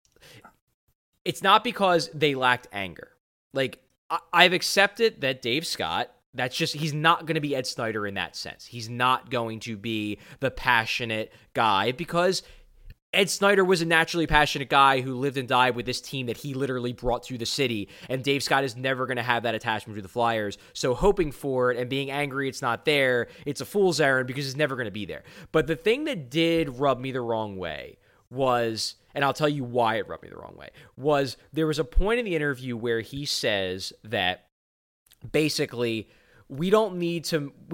they lacked anger. Like, I've accepted that Dave Scott, he's not going to be Ed Snyder in that sense. He's not going to be the passionate guy, because Ed Snyder was a naturally passionate guy who lived and died with this team that he literally brought to the city, and Dave Scott is never going to have that attachment to the Flyers. So hoping for it and being angry it's not there, it's a fool's errand, because it's never going to be there. But the thing that did rub me the wrong way was, and I'll tell you why it rubbed me the wrong way, was there was a point in the interview where he says that basically we don't need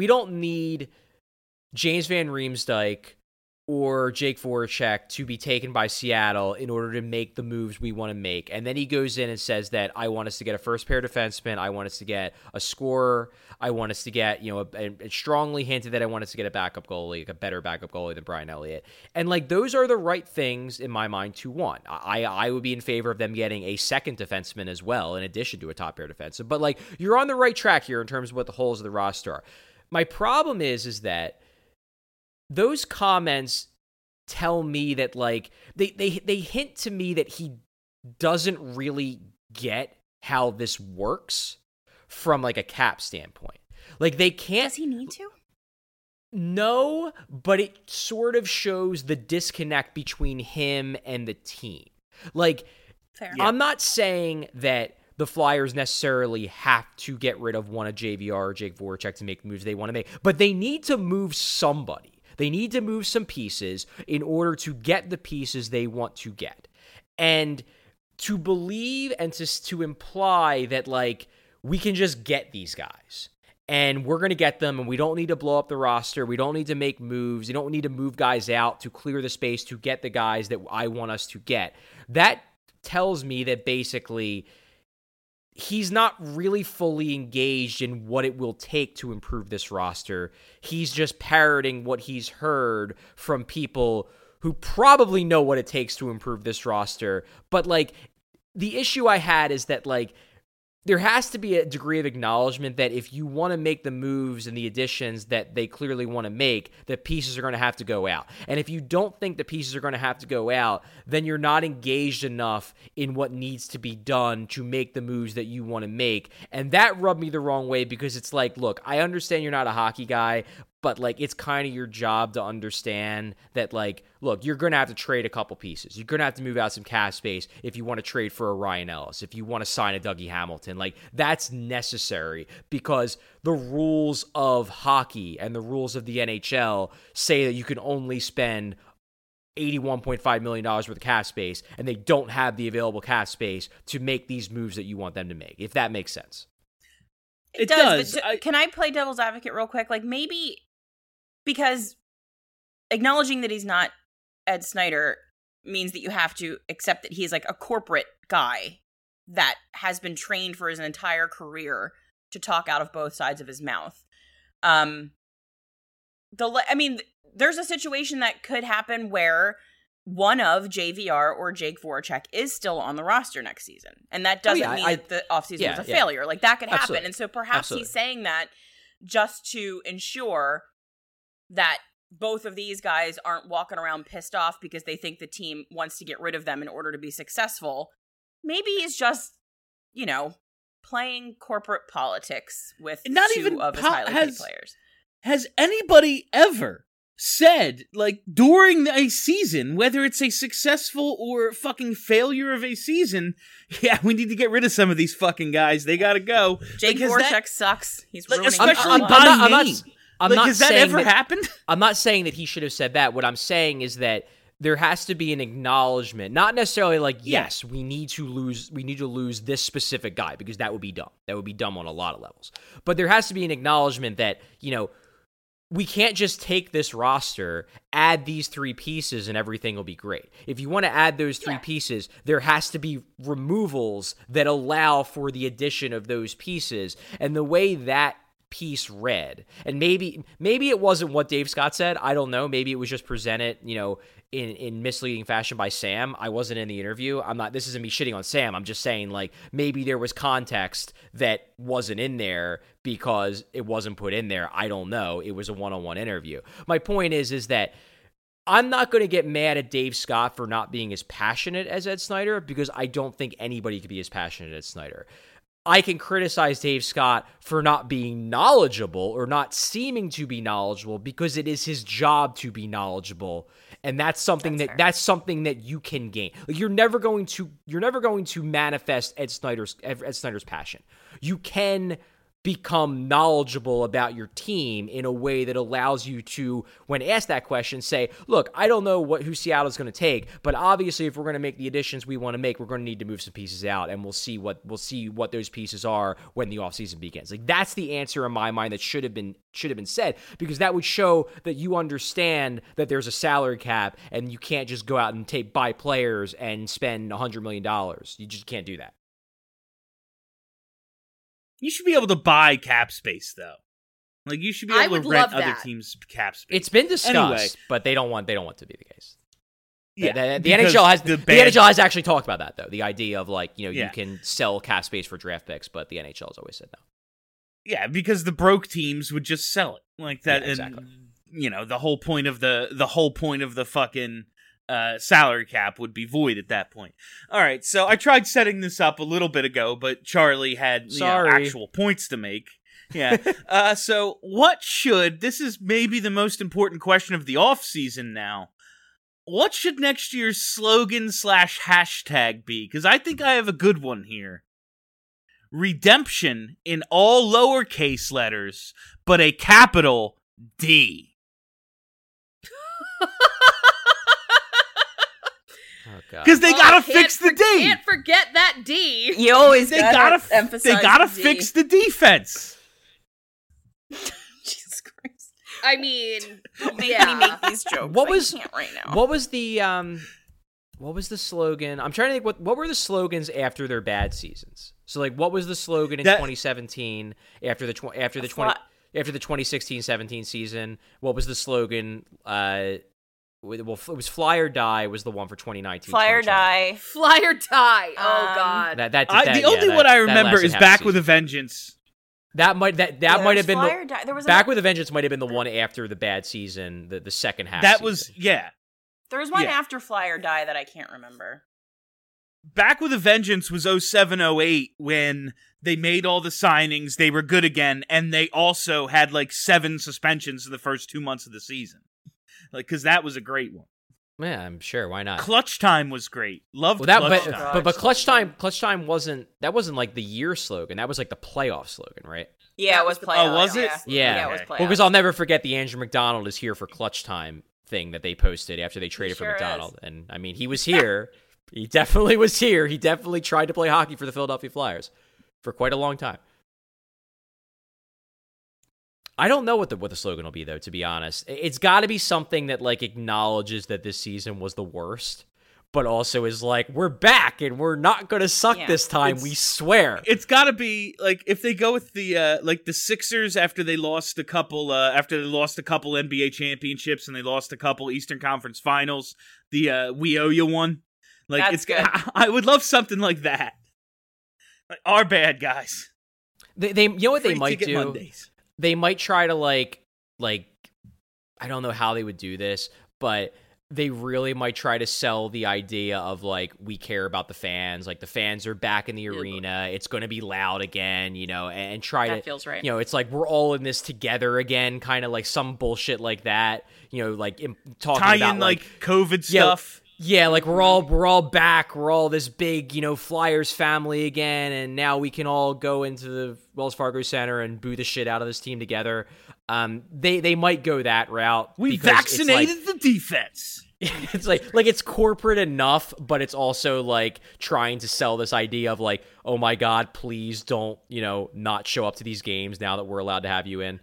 James Van Riemsdyk or Jake Voracek to be taken by Seattle in order to make the moves we want to make. And then he goes in and says that I want us to get a first pair defenseman, I want us to get a scorer, I want us to get, and strongly hinted that I want us to get a backup goalie, like a better backup goalie than Brian Elliott. And, like, those are the right things in my mind to want. I would be in favor of them getting a second defenseman as well, in addition to a top pair defenseman. But, like, you're on the right track here in terms of what the holes of the roster are. My problem is that those comments tell me that, like, they hint to me that he doesn't really get how this works from, like, a cap standpoint. Like, they can't... Does he need to? No, but it sort of shows the disconnect between him and the team. Like, fair. I'm not saying that the Flyers necessarily have to get rid of one of JVR or Jake Voracek to make the moves they want to make, but they need to move somebody. They need to move some pieces in order to get the pieces they want to get. And to believe and to imply that, like, we can just get these guys and we're going to get them and we don't need to blow up the roster. We don't need to make moves. You don't need to move guys out to clear the space to get the guys that I want us to get. That tells me that basically he's not really fully engaged in what it will take to improve this roster. He's just parroting what he's heard from people who probably know what it takes to improve this roster. But, like, the issue I had is that, like, there has to be a degree of acknowledgement that if you want to make the moves and the additions that they clearly want to make, the pieces are going to have to go out. And if you don't think the pieces are going to have to go out, then you're not engaged enough in what needs to be done to make the moves that you want to make. And that rubbed me the wrong way because it's like, look, I understand you're not a hockey guy, but, like, it's kind of your job to understand that, like, look, you're going to have to trade a couple pieces. You're going to have to move out some cap space if you want to trade for a Ryan Ellis, if you want to sign a Dougie Hamilton. Like, that's necessary because the rules of hockey and the rules of the NHL say that you can only spend $81.5 million worth of cap space, and they don't have the available cap space to make these moves that you want them to make, if that makes sense. It does. But can I play devil's advocate real quick? Like, maybe because acknowledging that he's not Ed Snyder means that you have to accept that he's like a corporate guy that has been trained for his entire career to talk out of both sides of his mouth. There's a situation that could happen where one of JVR or Jake Voracek is still on the roster next season. And that doesn't mean that the offseason was a failure. Like, that could happen. Absolutely. And so perhaps he's saying that just to ensure that both of these guys aren't walking around pissed off because they think the team wants to get rid of them in order to be successful. Maybe he's just, playing corporate politics with two of his highly paid players. Has anybody ever said, like, during a season, whether it's a successful or fucking failure of a season, yeah, we need to get rid of some of these fucking guys. They gotta go. Jake Voracek sucks. He's ruining especially by name. Has that ever happened? I'm not saying that he should have said that. What I'm saying is that there has to be an acknowledgement, not necessarily like, yes, we need to lose this specific guy, because that would be dumb. That would be dumb on a lot of levels. But there has to be an acknowledgement that, we can't just take this roster, add these three pieces, and everything will be great. If you want to add those three pieces, there has to be removals that allow for the addition of those pieces. And the way that piece read, and maybe it wasn't what Dave Scott said, I don't know, maybe it was just presented, in misleading fashion by Sam. I wasn't in the interview. This isn't me shitting on Sam. I'm just saying, like, maybe there was context that wasn't in there because it wasn't put in there. I don't know. It was a one-on-one interview. My point is that I'm not going to get mad at Dave Scott for not being as passionate as Ed Snyder, because I don't think anybody could be as passionate as Snyder. I can criticize Dave Scott for not being knowledgeable or not seeming to be knowledgeable, because it is his job to be knowledgeable, and that's something that you can gain. Like, you're never going to manifest Ed Snyder's passion. You can become knowledgeable about your team in a way that allows you to, when asked that question, say, look, I don't know who Seattle's going to take, but obviously if we're going to make the additions we want to make, we're going to need to move some pieces out, and we'll see what those pieces are when the offseason begins. Like, that's the answer in my mind that should have been said, because that would show that you understand that there's a salary cap and you can't just go out and buy players and spend $100 million. You just can't do that. You should be able to buy cap space, though. Like, you should be able to rent other teams' cap space. It's been discussed, anyway, but they don't want to be the case. Yeah, the NHL has actually talked about that, though. The idea of, like, you can sell cap space for draft picks, but the NHL has always said no. Yeah, because the broke teams would just sell it like that, yeah, exactly. And the whole point of the fucking salary cap would be void at that point. All right, so I tried setting this up a little bit ago, but Charlie had actual points to make. Yeah. So this is maybe the most important question of the offseason now. What should next year's slogan / hashtag be? Because I think I have a good one here. Redemption in all lowercase letters, but a capital D. Because they gotta fix the D. Can't forget that D. You always gotta emphasize. They gotta fix the defense. Jesus Christ! I mean, me make these jokes. What was the slogan? I'm trying to think. What were the slogans after their bad seasons? So, like, what was the slogan in 2017 after the 2016-17 season? What was the slogan Well, it was Fly or Die was the one for 2019. Fly or 2020. Die. Fly or Die. Oh God. The only one I remember is Back with a Vengeance. That might have been Fly or Die. There was Back with a Vengeance might have been the one after the bad season, the second half. That season. was yeah. There was one after Fly or Die that I can't remember. Back with a Vengeance was 07-08 when they made all the signings, they were good again, and they also had like 7 suspensions in the first 2 months of the season. Like, because that was a great one. Yeah, I'm sure. Why not? Clutch Time was great. Loved that, Clutch Time. But Clutch Time wasn't like the year slogan. That was like the playoff slogan, right? Yeah, it was playoff. Oh, was it? Yeah. It was playoff. Well, because I'll never forget the Andrew McDonald is here for Clutch Time thing that they posted after they traded for McDonald. And I mean, he was here. He definitely was here. He definitely tried to play hockey for the Philadelphia Flyers for quite a long time. I don't know what the slogan will be, though, to be honest. It's got to be something that like acknowledges that this season was the worst, but also is like, we're back and we're not going to suck this time, we swear. It's got to be like if they go with the like the Sixers after they lost a couple NBA championships and they lost a couple Eastern Conference Finals, the We Owe You one. Like That's it's good. I would love something like that. Like our bad guys. They you know what Free they might ticket do? Mondays. They might try to like I don't know how they would do this, but they really might try to sell the idea of like, we care about the fans, like the fans are back in the arena, it's going to be loud again, you know, and try That feels right. You know, it's like we're all in this together again, kind of like some bullshit like that, you know, like talking Tie about in like COVID stuff. Yeah, like we're all back. We're all this big, you know, Flyers family again, and now we can all go into the Wells Fargo Center and boo the shit out of this team together. They might go that route. We vaccinated the defense. It's like it's corporate enough, but it's also like trying to sell this idea of like, oh my God, please don't, you know, not show up to these games now that we're allowed to have you in.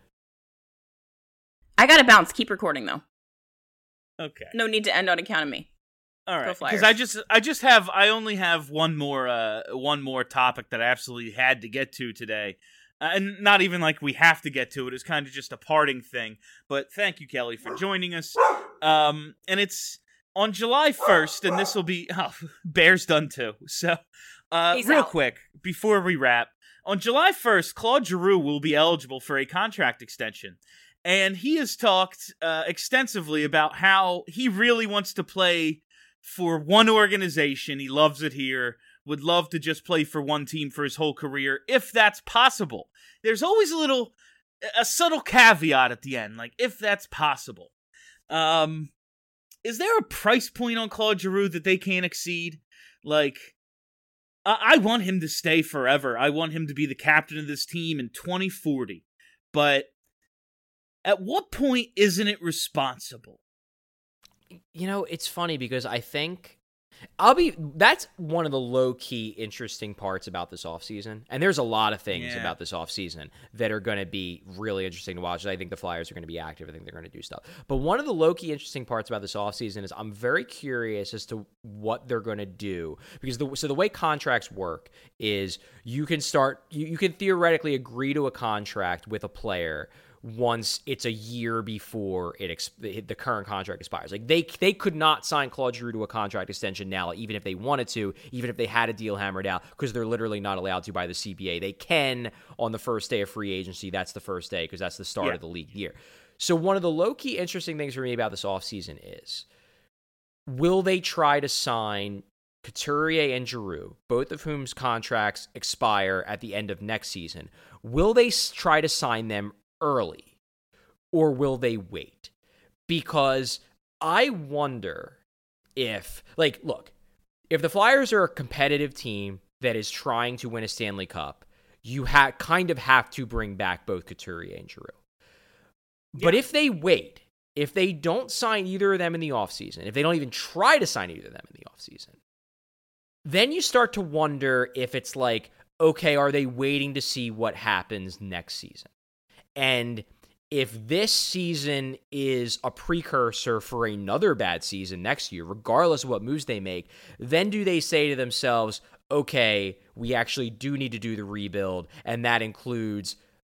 I gotta bounce. Keep recording though. Okay. No need to end on account of me. All right, because I only have one more topic that I absolutely had to get to today, and not even like we have to get to it. It's kind of just a parting thing. But thank you, Kelly, for joining us. And it's on July 1st, and this will be Bear's done too. So, real quick before we wrap, on July 1st, Claude Giroux will be eligible for a contract extension. And he has talked extensively about how he really wants to play for one organization. He loves it here, would love to just play for one team for his whole career, if that's possible. There's always a subtle caveat at the end, like, if that's possible. Is there a price point on Claude Giroux that they can't exceed? Like, I want him to stay forever. I want him to be the captain of this team in 2040. But at what point isn't it responsible? You know, it's funny because I think that's one of the low-key interesting parts about this offseason. And there's a lot of things about this offseason that are going to be really interesting to watch. I think the Flyers are going to be active. I think they're going to do stuff. But one of the low-key interesting parts about this offseason is I'm very curious as to what they're going to do. Because the way contracts work is you can theoretically agree to a contract with a player once it's a year before the current contract expires. Like they could not sign Claude Giroux to a contract extension now, even if they wanted to, even if they had a deal hammered out, because they're literally not allowed to by the CBA. They can on the first day of free agency. That's the first day because that's the start of the league year. So one of the low-key interesting things for me about this offseason is, will they try to sign Couturier and Giroux, both of whom's contracts expire at the end of next season? Will they try to sign them early, or will they wait? Because I wonder if, like, look, if the Flyers are a competitive team that is trying to win a Stanley Cup, you kind of have to bring back both Couturier and Giroux. But if they wait, if they don't sign either of them in the offseason, if they don't even try to sign either of them in the offseason, then you start to wonder if it's like, okay, are they waiting to see what happens next season? And if this season is a precursor for another bad season next year, regardless of what moves they make, then do they say to themselves, okay, we actually do need to do the rebuild, and that includes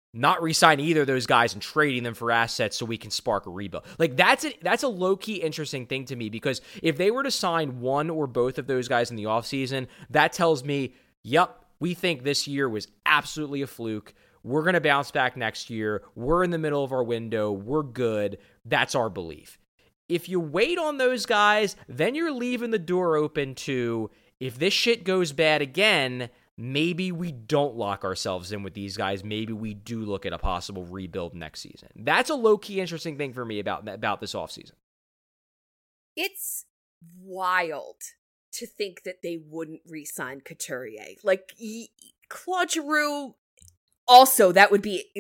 not re-signing either of those guys and trading them for assets so we can spark a rebuild. Like, that's a low-key interesting thing to me, because if they were to sign one or both of those guys in the offseason, that tells me, yep, we think this year was absolutely a fluke. We're going to bounce back next year. We're in the middle of our window. We're good. That's our belief. If you wait on those guys, then you're leaving the door open to, if this shit goes bad again, maybe we don't lock ourselves in with these guys. Maybe we do look at a possible rebuild next season. That's a low-key interesting thing for me about this offseason. It's wild to think that they wouldn't re-sign Couturier. Like, Claude Giroux, also, that would be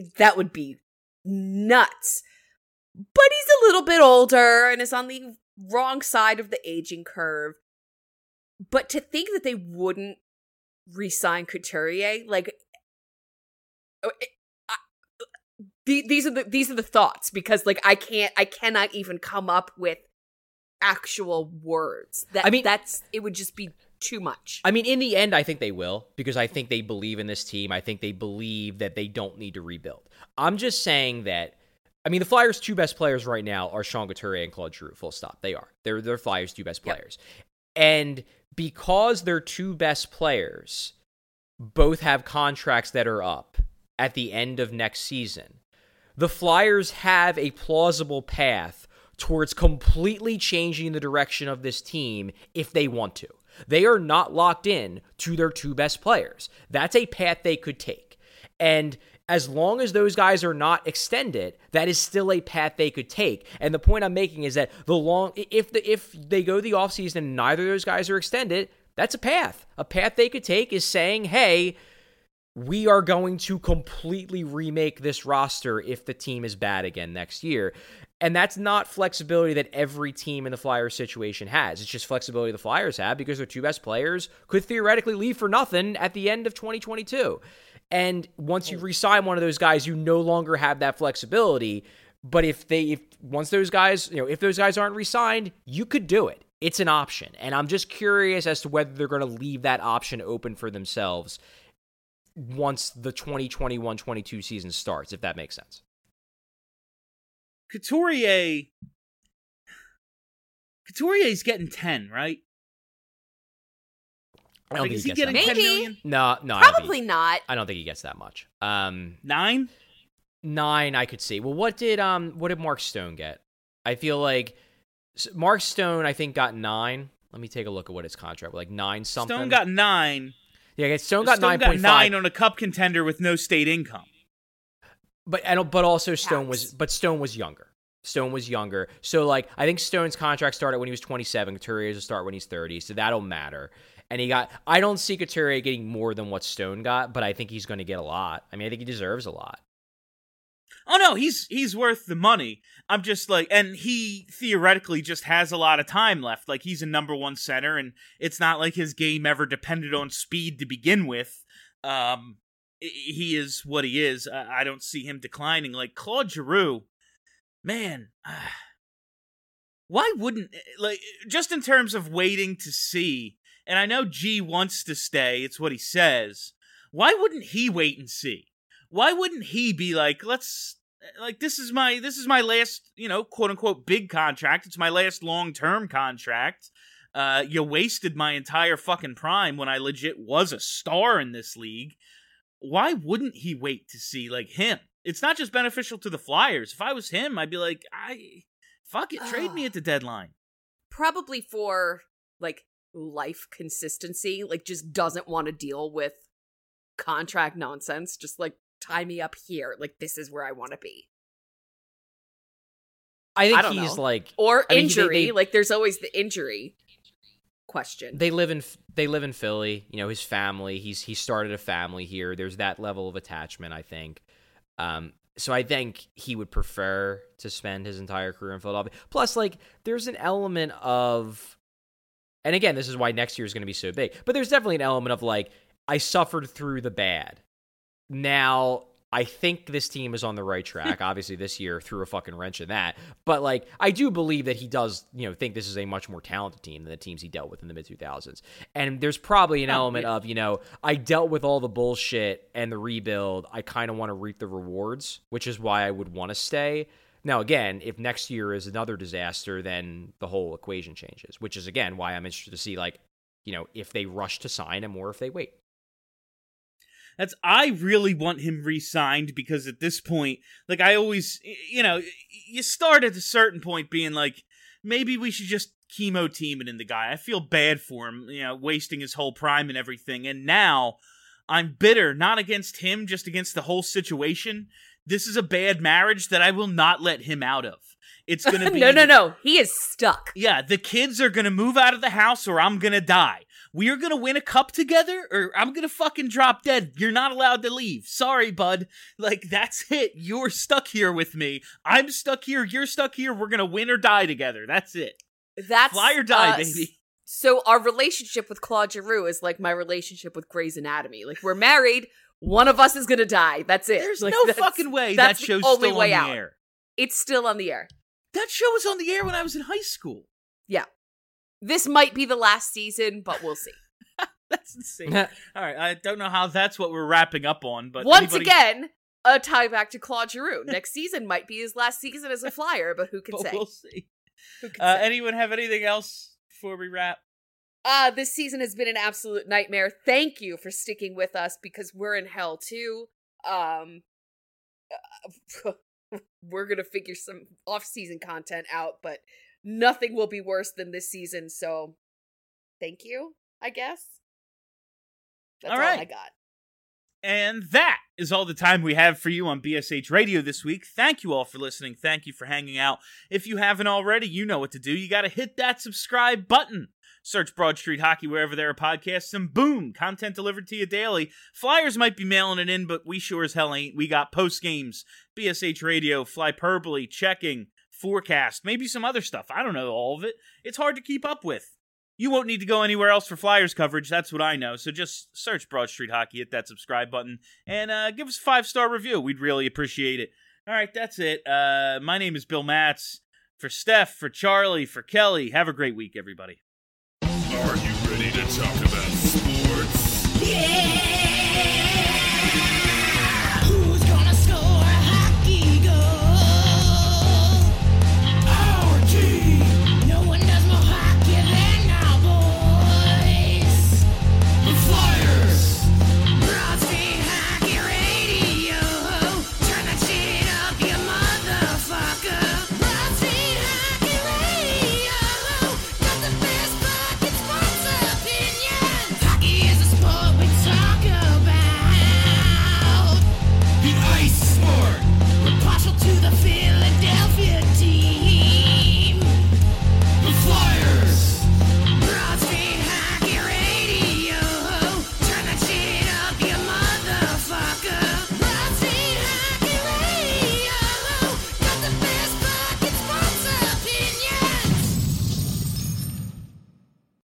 nuts. But he's a little bit older and is on the wrong side of the aging curve. But to think that they wouldn't re-sign Couturier, like, these are the thoughts, because like I cannot even come up with actual words. It would just be too much. I mean, in the end, I think they will, because I think they believe in this team. I think they believe that they don't need to rebuild. I'm just saying that, I mean, the Flyers' two best players right now are Sean Couturier and Claude Giroux, full stop. They are. They're Flyers' two best players. Yep. And because their two best players both have contracts that are up at the end of next season, the Flyers have a plausible path towards completely changing the direction of this team if they want to. They are not locked in to their two best players. That's a path they could take. And as long as those guys are not extended, that is still a path they could take. And the point I'm making is that if they go the offseason and neither of those guys are extended, that's a path. A path they could take is saying, hey, we are going to completely remake this roster if the team is bad again next year. And that's not flexibility that every team in the Flyers situation has. It's just flexibility the Flyers have because their two best players could theoretically leave for nothing at the end of 2022. And once you re-sign one of those guys, you no longer have that flexibility. But if those guys aren't re-signed, you could do it. It's an option. And I'm just curious as to whether they're going to leave that option open for themselves once the 2021-22 season starts, if that makes sense. Couturier's getting 10, right? I don't think is he he gets getting that 10 Maybe. million? No, Probably not. I don't think he gets that much. 9? 9, I could see. Well, what did Mark Stone get? I feel like Mark Stone, I think, got 9. Let me take a look at what his contract was, like 9 something. Stone got 9. Yeah, Stone got 9.5. Got 9 on a cup contender with no state income. But also Stone was younger. Stone was younger. So, like, I think Stone's contract started when he was 27. Couturier's will start when he's 30, so that'll matter. And I don't see Couturier getting more than what Stone got, but I think he's going to get a lot. I mean, I think he deserves a lot. Oh, no, he's worth the money. I'm just like, and he theoretically just has a lot of time left. Like, he's a number one center, and it's not like his game ever depended on speed to begin with. He is what he is. I don't see him declining. Like, Claude Giroux, man, why wouldn't, like, just in terms of waiting to see, and I know G wants to stay, it's what he says, why wouldn't he wait and see? Why wouldn't he be like, this is my last, quote unquote big contract, it's my last long-term contract, you wasted my entire fucking prime when I legit was a star in this league. Why wouldn't he wait to see, like, him? It's not just beneficial to the Flyers. If I was him, I'd be like, fuck it, trade me at the deadline. Probably for, like, life consistency, like, just doesn't want to deal with contract nonsense. Just, like, tie me up here. Like, this is where I want to be. I think he's like, or injury. Like, there's always the injury question. They live in Philly. His family. He started a family here. There's that level of attachment, I think. So I think he would prefer to spend his entire career in Philadelphia. Plus, like, there's an element of, and again, this is why next year is going to be so big. But there's definitely an element of, like, I suffered through the bad. Now I think this team is on the right track. Obviously, this year threw a fucking wrench in that. But, like, I do believe that he does, think this is a much more talented team than the teams he dealt with in the mid-2000s. And there's probably an element of, I dealt with all the bullshit and the rebuild. I kind of want to reap the rewards, which is why I would want to stay. Now, again, if next year is another disaster, then the whole equation changes, which is, again, why I'm interested to see, if they rush to sign him or if they wait. I really want him re-signed because at this point, I always, you start at a certain point being like, maybe we should just chemo team it in the guy. I feel bad for him, wasting his whole prime and everything. And now I'm bitter, not against him, just against the whole situation. This is a bad marriage that I will not let him out of. It's going to be... No. He is stuck. Yeah, the kids are going to move out of the house or I'm going to die. We are going to win a cup together or I'm going to fucking drop dead. You're not allowed to leave. Sorry, bud. That's it. You're stuck here with me. I'm stuck here. You're stuck here. We're going to win or die together. That's it. That's fly or die, baby. So our relationship with Claude Giroux is like my relationship with Grey's Anatomy. We're married. One of us is going to die. That's it. There's no fucking way that show's still on the air. It's still on the air. That show was on the air when I was in high school. Yeah. This might be the last season, but we'll see. That's insane. All right, I don't know how that's what we're wrapping up on, but once again, a tie back to Claude Giroux. Next season might be his last season as a Flyer, but who can say? We'll see. Anyone have anything else before we wrap? This season has been an absolute nightmare. Thank you for sticking with us because we're in hell too. We're gonna figure some off-season content out, but nothing will be worse than this season, so thank you, I guess. That's all I got. And that is all the time we have for you on BSH Radio this week. Thank you all for listening. Thank you for hanging out. If you haven't already, you know what to do. You got to hit that subscribe button. Search Broad Street Hockey wherever there are podcasts, and boom, content delivered to you daily. Flyers might be mailing it in, but we sure as hell ain't. We got post games, BSH Radio, Flyperbole, checking, forecast, maybe some other stuff. I don't know all of it. It's hard to keep up with. You won't need to go anywhere else for Flyers coverage, that's what I know. So just search Broad Street Hockey, hit that subscribe button, and give us a 5-star review. We'd really appreciate it. All right, that's it. My name is Bill Matz. For Steph, for Charlie, for Kelly, have a great week, everybody. Are you ready to talk about sports? Yeah!